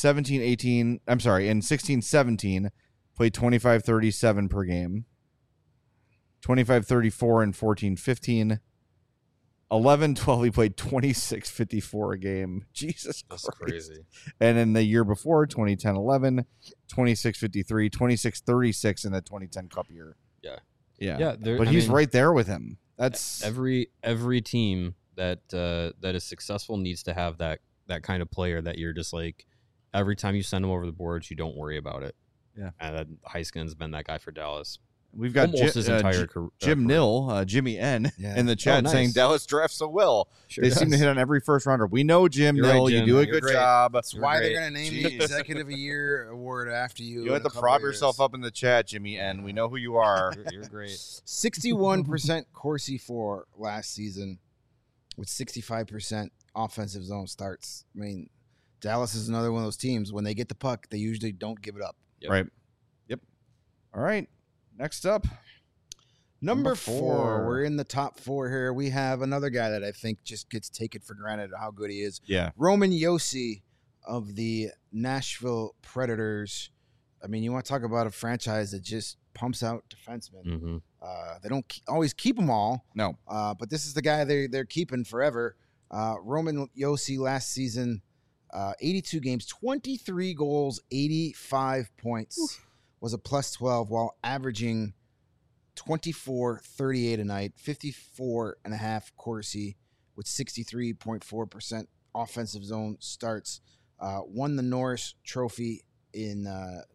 16-17 played 25-37 per game. 25-34 in 14-15. 11-12 he played 26-54 a game. Jesus That's Christ. crazy. And in the year before, 2010-11, 26-53, 26-36 in the 2010 Cup year. Yeah. Yeah. Yeah, But he's right there with him. That's Every team that is successful needs to have that kind of player that you're just like, every time you send him over the boards, you don't worry about it. Yeah. And Heiskanen's been that guy for Dallas. We've got almost his entire Jim career. Nill, Jimmy N, Yeah. in the chat nice. saying Dallas drafts so well. Sure They seem to does. hit on every first rounder. We know Jim You're right, Nill. You Jim. do a You're good great. job. That's You're why great. they're going to name the Jeez. Executive of Year award after you. You have to prop yourself up in the chat, Jimmy N. We know who you are. You're great. 61% Corsi for last season with 65% offensive zone starts. I mean, Dallas is another one of those teams. When they get the puck, they usually don't give it up. Yep. Right. Yep. All right. Next up. Number four. 4. We're in the top 4 here. We have another guy that I think just gets taken for granted how good he is. Yeah. Roman Josi of the Nashville Predators. I mean, you want to talk about a franchise that just pumps out defensemen. Mm-hmm. They don't always keep them all, No. but this is the guy they're keeping forever. Roman Josi last season, 82 games, 23 goals, 85 points, was a plus 12 while averaging 24-38 a night, 54.5 Corsi with 63.4% offensive zone starts. Won the Norris Trophy in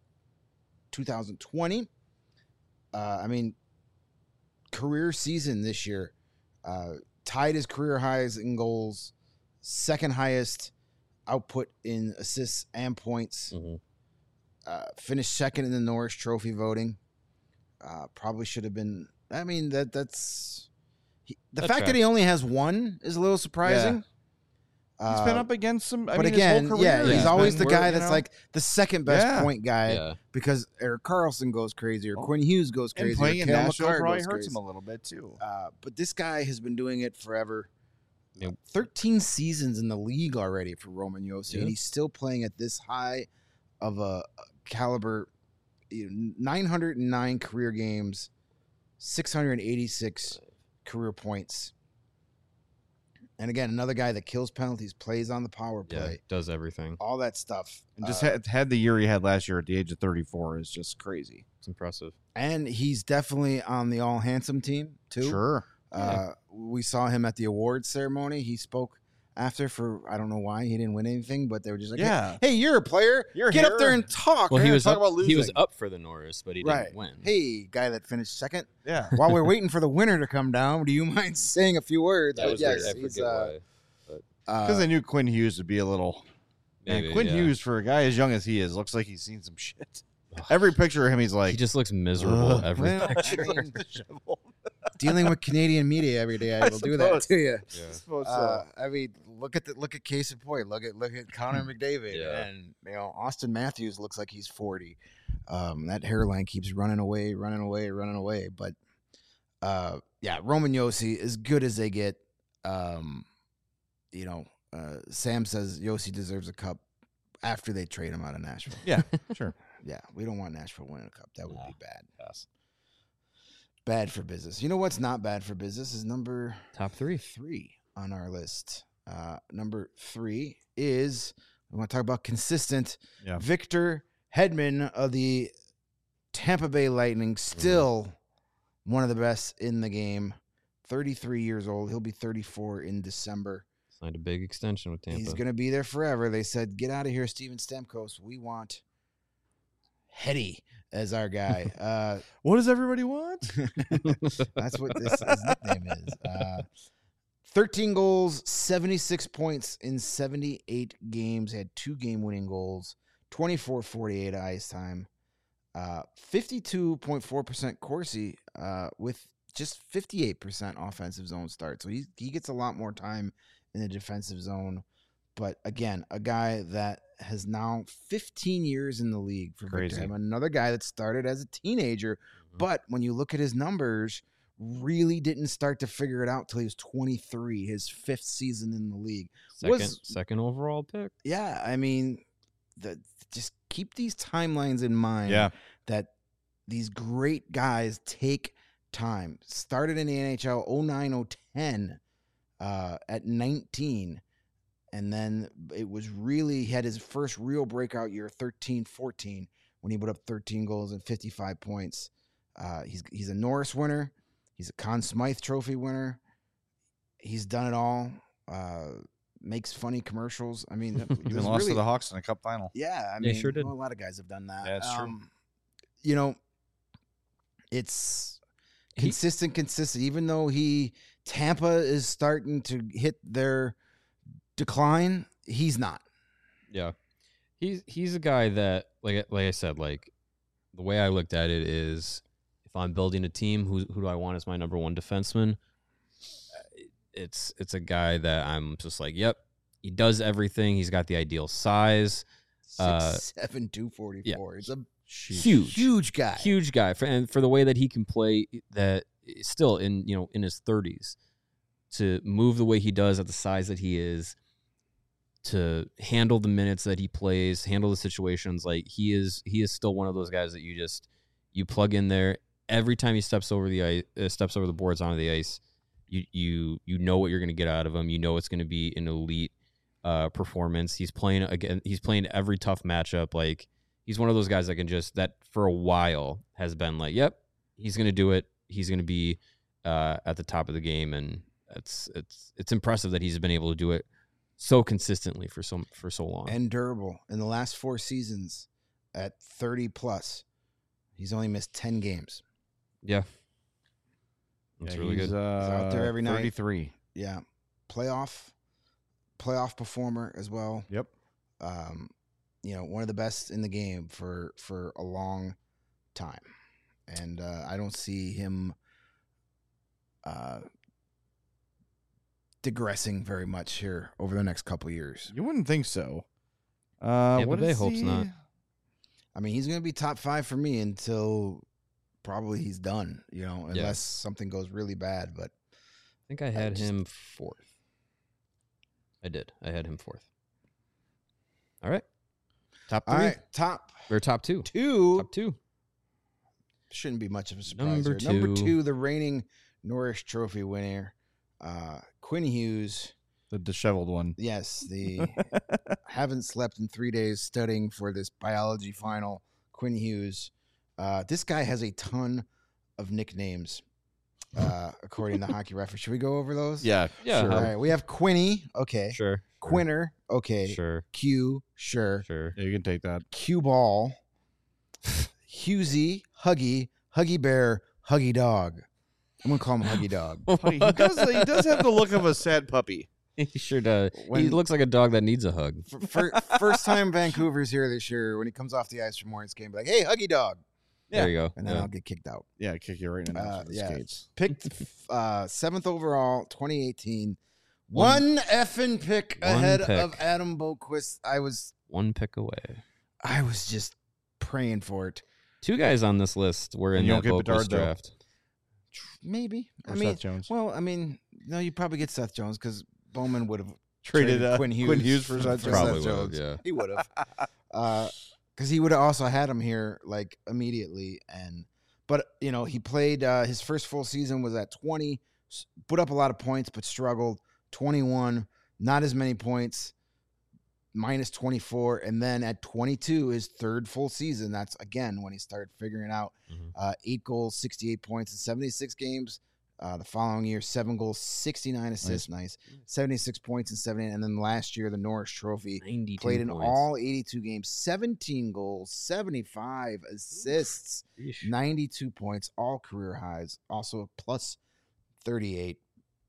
2020. I mean, career season this year. Tied his career highs in goals, second highest output in assists and points. Mm-hmm. Finished second in the Norris Trophy voting. Probably should have been. I mean, the That fact that he only has one is a little surprising. He's been up against some. But his again, whole career, he's always the been guy where, that's you know, like the second best point guy Yeah. because Eric Carlson goes crazy or Oh. Quinn Hughes goes and crazy. playing or in Cale Nashville Makar probably goes hurts crazy. him a little bit too. But this guy has been doing it forever. Yep. 13 seasons in the league already for Roman Josi, Yeah. and he's still playing at this high of a caliber. 909 career games, 686 career points. And again, another guy that kills penalties, plays on the power Yeah. play, Does everything. all that stuff. And just had the year he had last year at the age of 34 is just crazy. It's impressive. And he's definitely on the all handsome team too. Sure. We saw him at the awards ceremony. He spoke after for I don't know why he didn't win anything, but they were just like, Yeah. hey, you're a player. You're Get up here." there and talk. Well, man. he was talk up, about he was losing. up for the Norris, but he right. didn't win. Hey, guy that finished second. Yeah. While we're waiting for the winner to come down, do you mind saying a few words? That But was yes, weird. I he's, forget why. Because they knew Quinn Hughes would be a little. Maybe, Man, Quinn yeah. Hughes, for a guy as young as he is, looks like he's seen some shit. Every picture of him, he's like, He just looks miserable Ugh. every Well, picture. I mean, dealing with Canadian media every day, I will do that suppose. to you. Yeah. I mean, look at Case in Point. Look at Connor McDavid, Yeah. and Austin Matthews looks like he's 40. That hairline keeps running away. But Roman Josi, as good as they get. Sam says Josi deserves a cup after they trade him out of Nashville. Yeah, sure. Yeah, we don't want Nashville winning a cup. That would No. be bad. Yes. Bad for business. You know what's not bad for business is number Top 3. 3 on our list. Number 3 is we want to talk about consistent. Yeah. Victor Hedman of the Tampa Bay Lightning, still one of the best in the game. 33 years old. He'll be 34 in December. Signed a big extension with Tampa. He's going to be there forever. They said, get out of here, Steven Stamkos. We want Hetty as our guy. What does everybody want? That's what his nickname is. 13 goals, 76 points in 78 games. Had 2 game-winning goals, 24-48 ice time, 52.4% Corsi with just 58% offensive zone start. So he gets a lot more time in the defensive zone. But again, a guy that has now 15 years in the league for Victor Crazy. Hedman. Another guy that started as a teenager, but when you look at his numbers, really didn't start to figure it out till he was 23, his 5th season in the league. Second overall pick. Yeah, I mean, just keep these timelines in mind. Yeah. That these great guys take time. Started in the NHL 09-010 at 19. And then it was really, he had his first real breakout year, 13-14, when he put up 13 goals and 55 points. He's a Norris winner. He's a Conn Smythe Trophy winner. He's done it all. Makes funny commercials. I mean, it Even was lost really, to the Hawks in a cup final. yeah, I Yeah, mean, sure did. well, a lot of guys have done that. Yeah, it's true. You know, It's He- consistent. Even though Tampa is starting to hit their decline, he's not. Yeah, he's a guy that like I said, like the way I looked at it is, if I'm building a team, who do I want as my number one defenseman? It's a guy that I'm just like, yep, he does everything. He's got the ideal size. 6'7", 244. It's a huge guy. Huge guy, and for the way that he can play, that still in his 30s, to move the way he does at the size that he is, to handle the minutes that he plays, handle the situations, like he is still one of those guys that you plug in there every time he steps over the ice, steps over the boards onto the ice. You know what you're going to get out of him. You know it's going to be an elite performance. He's playing every tough matchup. Like, he's one of those guys that for a while has been like, yep, he's going to do it. He's going to be at the top of the game, and it's impressive that he's been able to do it so consistently for so long and durable. In the last 4 seasons, at 30 plus, he's only missed 10 games. Yeah, that's really good. He's out there every night. 33. Yeah, playoff performer as well. Yep. One of the best in the game for a long time, and I don't see him digressing very much here over the next couple of years. You wouldn't think so. Tampa Bay hopes not. I mean, he's going to be top 5 for me until probably he's done, unless something goes really bad. But I think I had him 4th. I did. I had him 4th. All right. Top 3. All right, top 2. Top 2. Shouldn't be much of a surprise. Number here. 2. Number 2, the reigning Norris Trophy winner, Quinn Hughes. The disheveled one. Yes, the haven't slept in 3 days studying for this biology final, Quinn Hughes. This guy has a ton of nicknames, according to Hockey Reference. Should we go over those? Yeah. Yeah. All right. We have Quinny. Okay. Sure. Quinner. Okay. Sure. Q. Sure. Sure. Yeah, you can take that. Q Ball. Hughesy. Huggy. Huggy Bear. Huggy Dog. I'm gonna call him Huggy Dog. He does have the look of a sad puppy. He sure does. He When- looks like a dog that needs a hug. First time Vancouver's here this year, when he comes off the ice for Morning's game, be like, "Hey, Huggy Dog," There you go. and then Yeah. I'll get kicked out. Yeah, kick you right in the nuts with the yeah. skates. Picked 7th overall, 2018. One effing pick One ahead pick. of Adam Boquist. I was One pick away. just praying for it. 2 guys on this list were in And you that don't get Boquist Bedard, though. draft. Maybe. Or I mean, Seth Jones. well, no, you probably get Seth Jones because Bowman would have Traded Quinn Hughes for Seth Jones. Probably Seth would have, Jones. yeah. He would have. Because he would have also had him here like immediately. But he played his first full season was at 20, put up a lot of points, but struggled. 21, not as many points, minus 24. And then at 22, his 3rd full season, that's again when he started figuring it out. Mhm. 8 goals, 68 points in 76 games. The following year, 7 goals, 69 assists, nice. 76 points in 78. And then last year, the Norris Trophy. 92 Played in points. all 82 games, 17 goals, 75 assists, Yeesh. 92 points, all career highs. Also plus 38.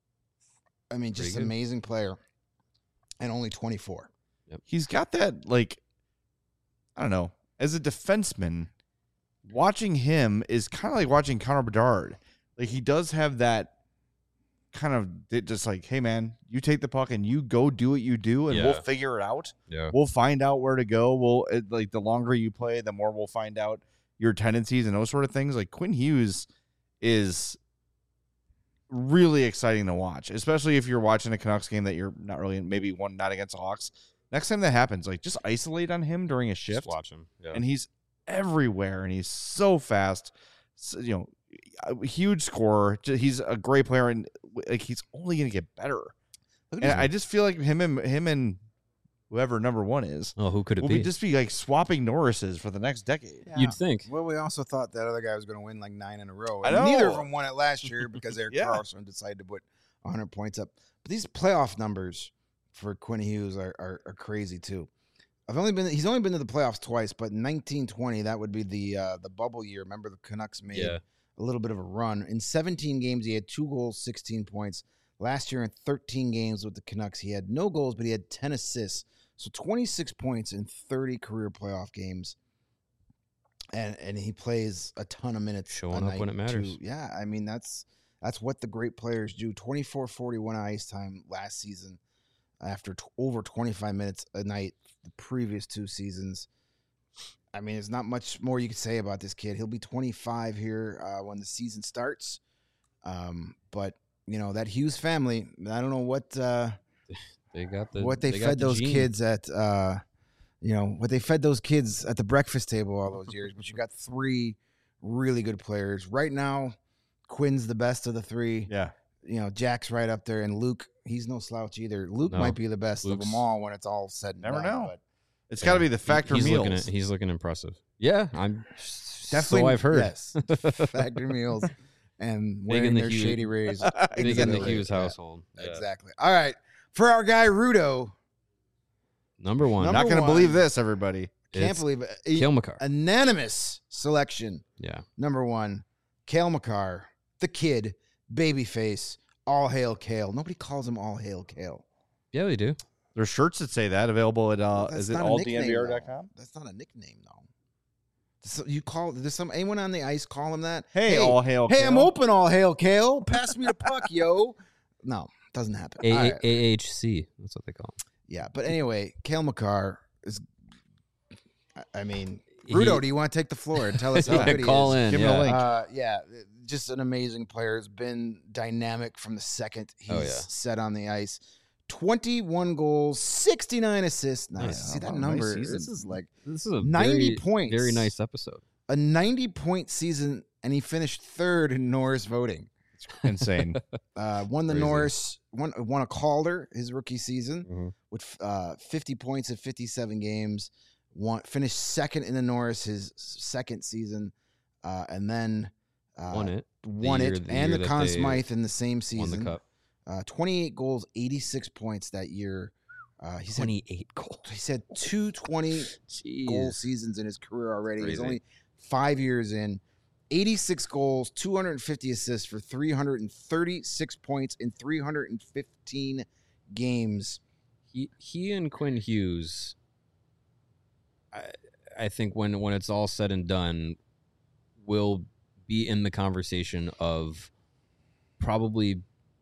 I mean, just Pretty an good. amazing player. And only 24. He's got that, like, I don't know. As a defenseman, watching him is kind of like watching Connor Bedard. Like, he does have that kind of just like, hey, man, you take the puck and you go do what you do, and Yeah. we'll figure it out. Yeah. We'll find out where to go. Like, the longer you play, the more we'll find out your tendencies and those sort of things. Like, Quinn Hughes is really exciting to watch, especially if you're watching a Canucks game that you're not really in, maybe one not against the Hawks. Next time that happens, like, just isolate on him during a shift, Just watch him. Yeah. and he's everywhere, and he's so fast. So, a huge scorer. He's a great player, and like, he's only going to get better. And I just feel like him and whoever number 1 is Oh, who could it will be? just be like swapping Norrises for the next decade. You'd think. Well, we also thought that other guy was going to win like 9 in a row. I And know. neither of them won it last year because Eric Yeah. Carlson decided to put 100 points up. But these playoff numbers for Quinn Hughes are crazy too. He's only been to the playoffs twice, but in 1920, that would be the bubble year. Remember the Canucks made Yeah. a little bit of a run. In 17 games, he had 2 goals, 16 points. Last year in 13 games with the Canucks, he had no goals, but he had 10 assists. So 26 points in 30 career playoff games. And he plays a ton of minutes. Showing up when it matters. Yeah, I mean, that's what the great players do. 24-41 ice time last season after over 25 minutes a night the previous 2 seasons. I mean, there's not much more you could say about this kid. He'll be 25 here when the season starts. But, you know, that Hughes family, I don't know what they fed those kids at what they fed those kids at the breakfast table all those years. But you got 3 really good players. Right now, Quinn's the best of the 3. Yeah. You know, Jack's right up there. And Luke, he's no slouch either. Luke might be the best of them all when it's all said and done. Never know. But it's got to be the Factor meals. He's looking impressive. Yeah, I'm definitely. So I've heard. Yes, Factor meals and wearing their shady rays. Big in the Hughes household. Yeah. Exactly. All right, for our guy Rudo, number one. Not going to believe this, everybody. Can't believe it. Cale Makar. Unanimous selection. Yeah. Number 1, Cale Makar, the kid, babyface, all hail Cale. Nobody calls him all hail Cale. Yeah, they do. There's shirts that say that available at is it alldnvr.com? That's not a nickname though. So you call anyone on the ice call him that? Hey, all hail Cale. Hey, I'm open, all hail Cale. Pass me the puck, yo. No, doesn't happen. AHC. That's what they call him. Yeah, but anyway, Cale Makar is. I mean, Rudo, do you want to take the floor and tell us how good he call is? in. Give him a link. Just an amazing player. Has been dynamic from the second he's set on the ice. 21 goals, 69 assists. Nice. See that number? Nice this is a 90 points. Very nice episode. A 90-point season, and he finished 3rd in Norris voting. It's insane. Won the Crazy. Norris, won a Calder his rookie season with 50 points in 57 games. Finished 2nd in the Norris his second season, and then won it and the Conn Smythe in the same season. Won the cup. 28 goals, 86 points that year. He 28 goals. He said 220 goal seasons in his career already. Crazy. He's only 5 years in. 86 goals, 250 assists for 336 points in 315 games. He and Quinn Hughes, I think when it's all said and done, will be in the conversation of probably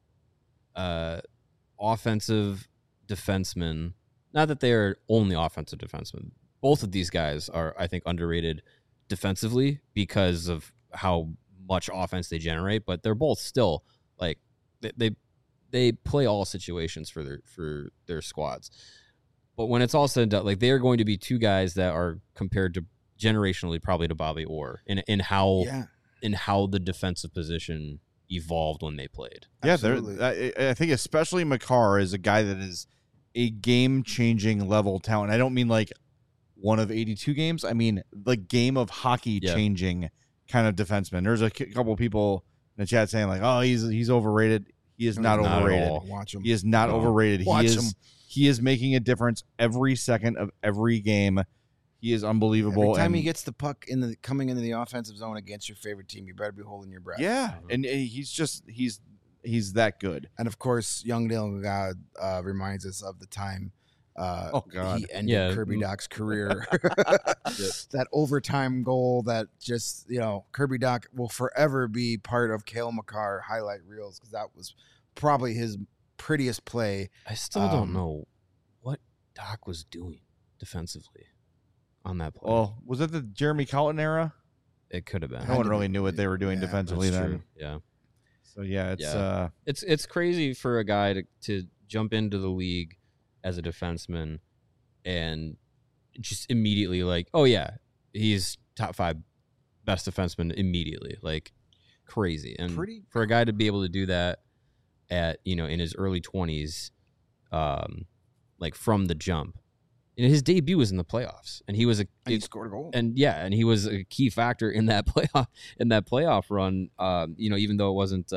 offensive defensemen. Not that they are only offensive defensemen. Both of these guys are, I think, underrated defensively because of how much offense they generate, but they're both still like they play all situations for their squads. But when it's all said and done, like, they are going to be 2 guys that are compared to generationally probably to Bobby Orr in how the defensive position evolved when they played. Yeah, I think especially Makar is a guy that is a game-changing level talent. I don't mean like one of 82 games. I mean the game of hockey changing kind of defenseman. There's a couple of people in the chat saying like, "Oh, he's overrated." He is not overrated. Watch him. He is not overrated. Watch him. He is making a difference every second of every game. He is unbelievable. Every time he gets the puck coming into the offensive zone against your favorite team, you better be holding your breath. Yeah, and he's that good. And of course, Young Dylan God reminds us of the time he ended Kirby Dach's career. That overtime goal that just, Kirby Dach will forever be part of Cale Makar highlight reels because that was probably his prettiest play. I still don't know what Dach was doing defensively on that play. Well, was it the Jeremy Colliton era? It could have been. No one really knew what they were doing defensively then. True. Yeah. So it's crazy for a guy to jump into the league as a defenseman and just immediately like, oh yeah, he's top 5 best defenseman immediately, like crazy. And for a guy to be able to do that at in his early 20s, like from the jump. His debut was in the playoffs, and he scored a goal. And he was a key factor in that playoff run. Even though it wasn't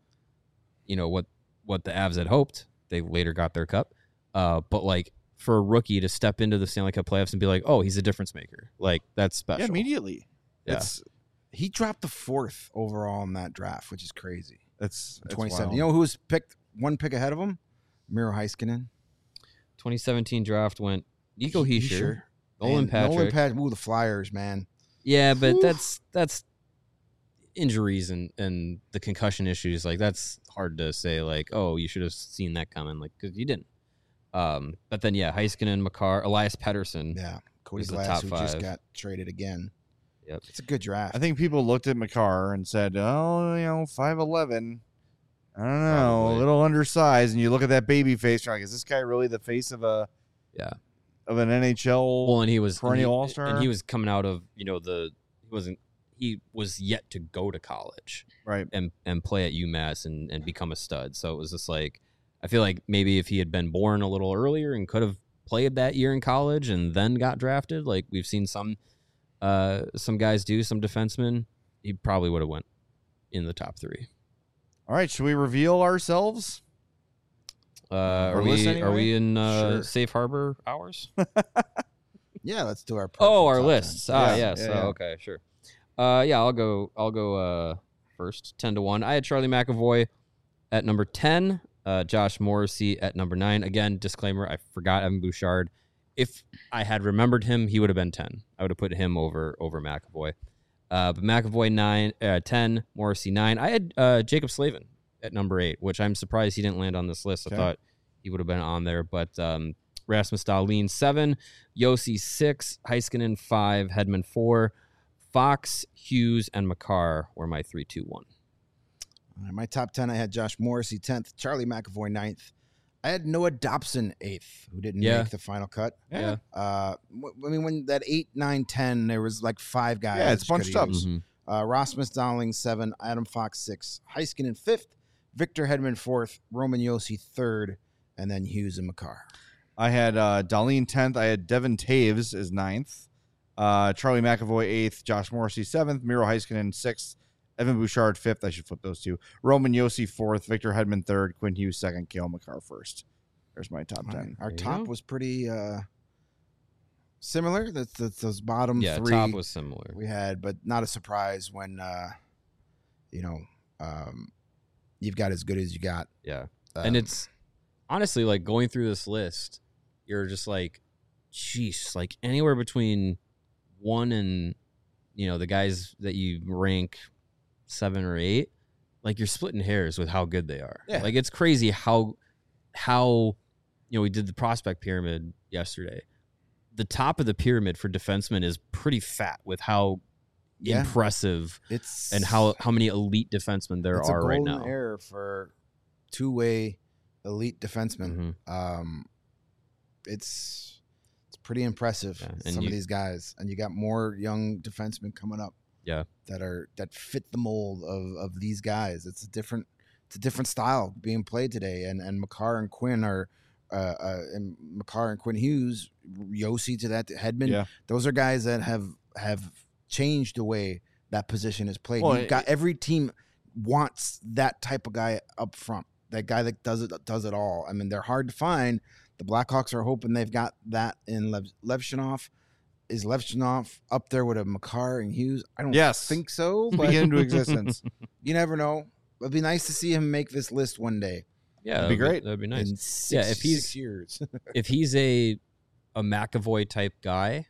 what the Avs had hoped, they later got their cup. But like, for a rookie to step into the Stanley Cup playoffs and be like, oh, he's a difference maker, like, that's special. Yeah, immediately. Yeah. He dropped the 4th overall in that draft, which is crazy. It's 27. wild. You know who was picked one pick ahead of him? Miro Heiskanen. 2017 draft went Nico Hischier, Nolan And Patrick. Ooh, the Flyers, man. Yeah, but Whew. that's injuries and the concussion issues. Like that's hard to say. Like, oh, you should have seen that coming. Like, because you didn't. But then yeah, Heiskanen, Makar, Elias Pettersson. Yeah. Cody was the Glass, top who just 5. got traded again. Yep. It's a good draft. I think people looked at McCarr and said, "Oh, 5'11". I don't know, Probably. a little undersized." And you look at that baby face, you're like, "Is this guy really the face of an NHL?" Well, and he was perennial and he- all-star? and he was coming out of he was yet to go to college right. and play at UMass and become a stud. So it was just like I feel like maybe if he had been born a little earlier and could have played that year in college and then got drafted, like we've seen some guys do, some defensemen, he probably would have went in the top 3. All right, should we reveal ourselves? Are list we anyway? in Sure. safe harbor hours? Yeah, let's do our Oh, personal our top lists. 10. Ah, Yeah, yes. yeah, yeah. Okay, sure. Yeah, I'll go first, 10-1. I had Charlie McAvoy at number 10, Josh Morrissey at number 9. Again, disclaimer, I forgot Evan Bouchard. If I had remembered him, he would have been 10. I would have put him over McAvoy. But McAvoy 10, Morrissey 9. I had Jacob Slavin at number 8, which I'm surprised he didn't land on this list. Okay. I thought he would have been on there, but Rasmus Dahlin 7, Yossi 6, Heiskanen 5, Hedman 4, Fox, Hughes, and Makar were my 3, 2, 1. All right, my top 10, I had Josh Morrissey 10th, Charlie McAvoy 9th. I had Noah Dobson 8th, who didn't Yeah. make the final cut. Yeah. I mean, when that 8, 9, 10, there was like 5 guys. Yeah, it's that you bunched coulda up. used. Mhm. Rasmus Dahlin 7, Adam Fox 6, Heiskanen 5th, Victor Hedman 4th, Roman Yossi 3rd, and then Hughes and Makar. I had Darlene 10th. I had Devin Taves as 9th. Charlie McAvoy 8th. Josh Morrissey 7th. Miro Heiskanen 6th. Evan Bouchard 5th. I should flip those two. Roman Yossi 4th. Victor Hedman 3rd. Quinn Hughes 2nd. Kale Makar 1st. There's my top 10. Our There you top go. was pretty similar. That's those bottom Yeah, 3 top was similar. we had, but not a surprise when you've got as good as you got. Yeah. And it's honestly like going through this list, you're just like, geez, like anywhere between 1 and, the guys that you rank 7 or 8, like you're splitting hairs with how good they are. Yeah. Like it's crazy how we did the prospect pyramid yesterday. The top of the pyramid for defensemen is pretty fat with how Yeah. impressive It's and how many elite defensemen there it's are a right golden now. era for two-way elite defensemen. Mhm. It's pretty impressive. Yeah, and Some you- of these guys, and you got more young defensemen coming up. Yeah. that fit the mold of these guys. It's a different style being played today. And Makar and Quinn are and Makar and Quinn Hughes, Yossi to that, to Hedman. Yeah. Those are guys that have changed the way that position is played. Well, You've got every team wants that type of guy up front. That guy that does it all. I mean, they're hard to find. The Blackhawks are hoping they've got that in Levshunov. Is Levshunov up there with a Makar and Hughes? I don't Yes. think so, but Begin into existence. you never know. It'd be nice to see him make this list one day. Yeah, That'd be great. That'd be nice. In six, Yeah, if he's- 6 years. If he's a McAvoy type guy,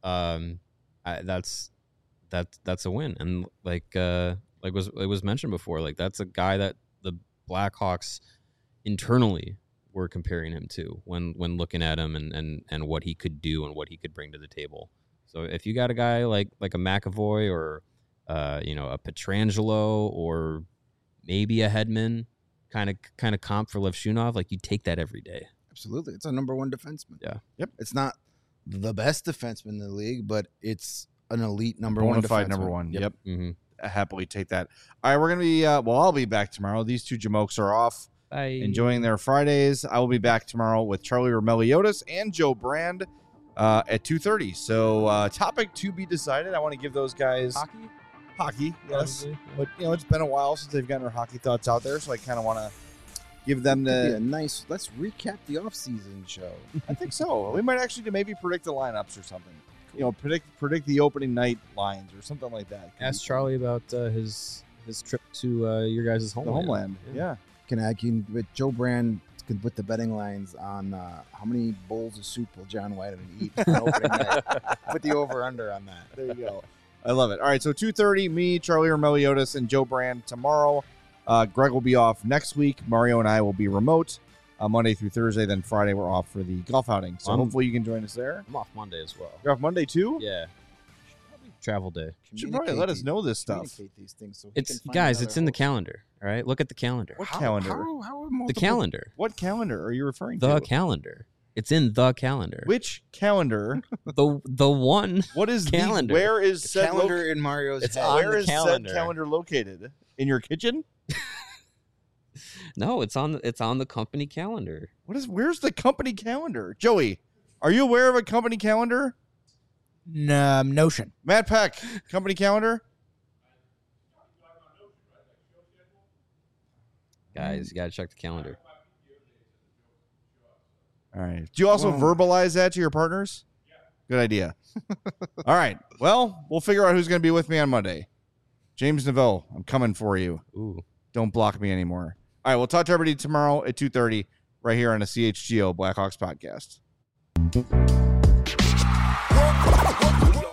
that's a win. And it was mentioned before, like that's a guy that the Blackhawks internally were comparing him to when looking at him and what he could do and what he could bring to the table. So if you got a guy like a McAvoy or a Pietrangelo or maybe a Hedman kind of comp for Levshunov, like you take that every day. Absolutely. It's a number 1 defenseman. Yeah. Yep. It's not the best defenseman in the league, but it's an elite number 1 Bonafide defenseman. number 1. Yep. Mm-hmm. I happily take that. All right, we're going to be, I'll be back tomorrow. These two Jamokes are off, enjoying their Fridays. I will be back tomorrow with Charlie Romeliotis and Joe Brand at 2:30. So topic to be decided. I want to give those guys hockey, yes. Probably, But, it's been a while since they've gotten their hockey thoughts out there, so I kind of want to give them Could be the... a nice. Let's recap the offseason show. I think so. We might actually maybe predict the lineups or something. predict the opening night lines or something like that. Could Ask be fun. Charlie about his trip to your guys' The homeland. homeland. Yeah. Can with Joe Brand can put the betting lines on how many bowls of soup will John Weideman eat on opening night. Put the over/under on that. There you go. I love it. All right, so 2:30, me, Charlie Meliodas, and Joe Brand tomorrow. Greg will be off next week. Mario and I will be remote Monday through Thursday. Then Friday we're off for the golf outing. So hopefully you can join us there. I'm off Monday as well. You're off Monday too? Yeah. Travel day. You should probably let us know this stuff. Communicate these things so he It's can find guys. another It's in the host. calendar. All right. Look at the calendar. What calendar? How are The multiple- calendar. What calendar are you referring The to? calendar. It's in the calendar. Which calendar? The one. What is Calendar. where is The said calendar in Mario's It's head. on where the is calendar. said calendar located? In your kitchen? No, it's on the company calendar. Where's the company calendar? Joey, are you aware of a company calendar? Notion. Matt Peck, company calendar? Guys, you gotta check the calendar. All right. Do you also verbalize that to your partners? Good idea. All right. Well, we'll figure out who's going to be with me on Monday. James Neville, I'm coming for you. Ooh. Don't block me anymore. All right. We'll talk to everybody tomorrow at 2:30 right here on the CHGO Blackhawks podcast.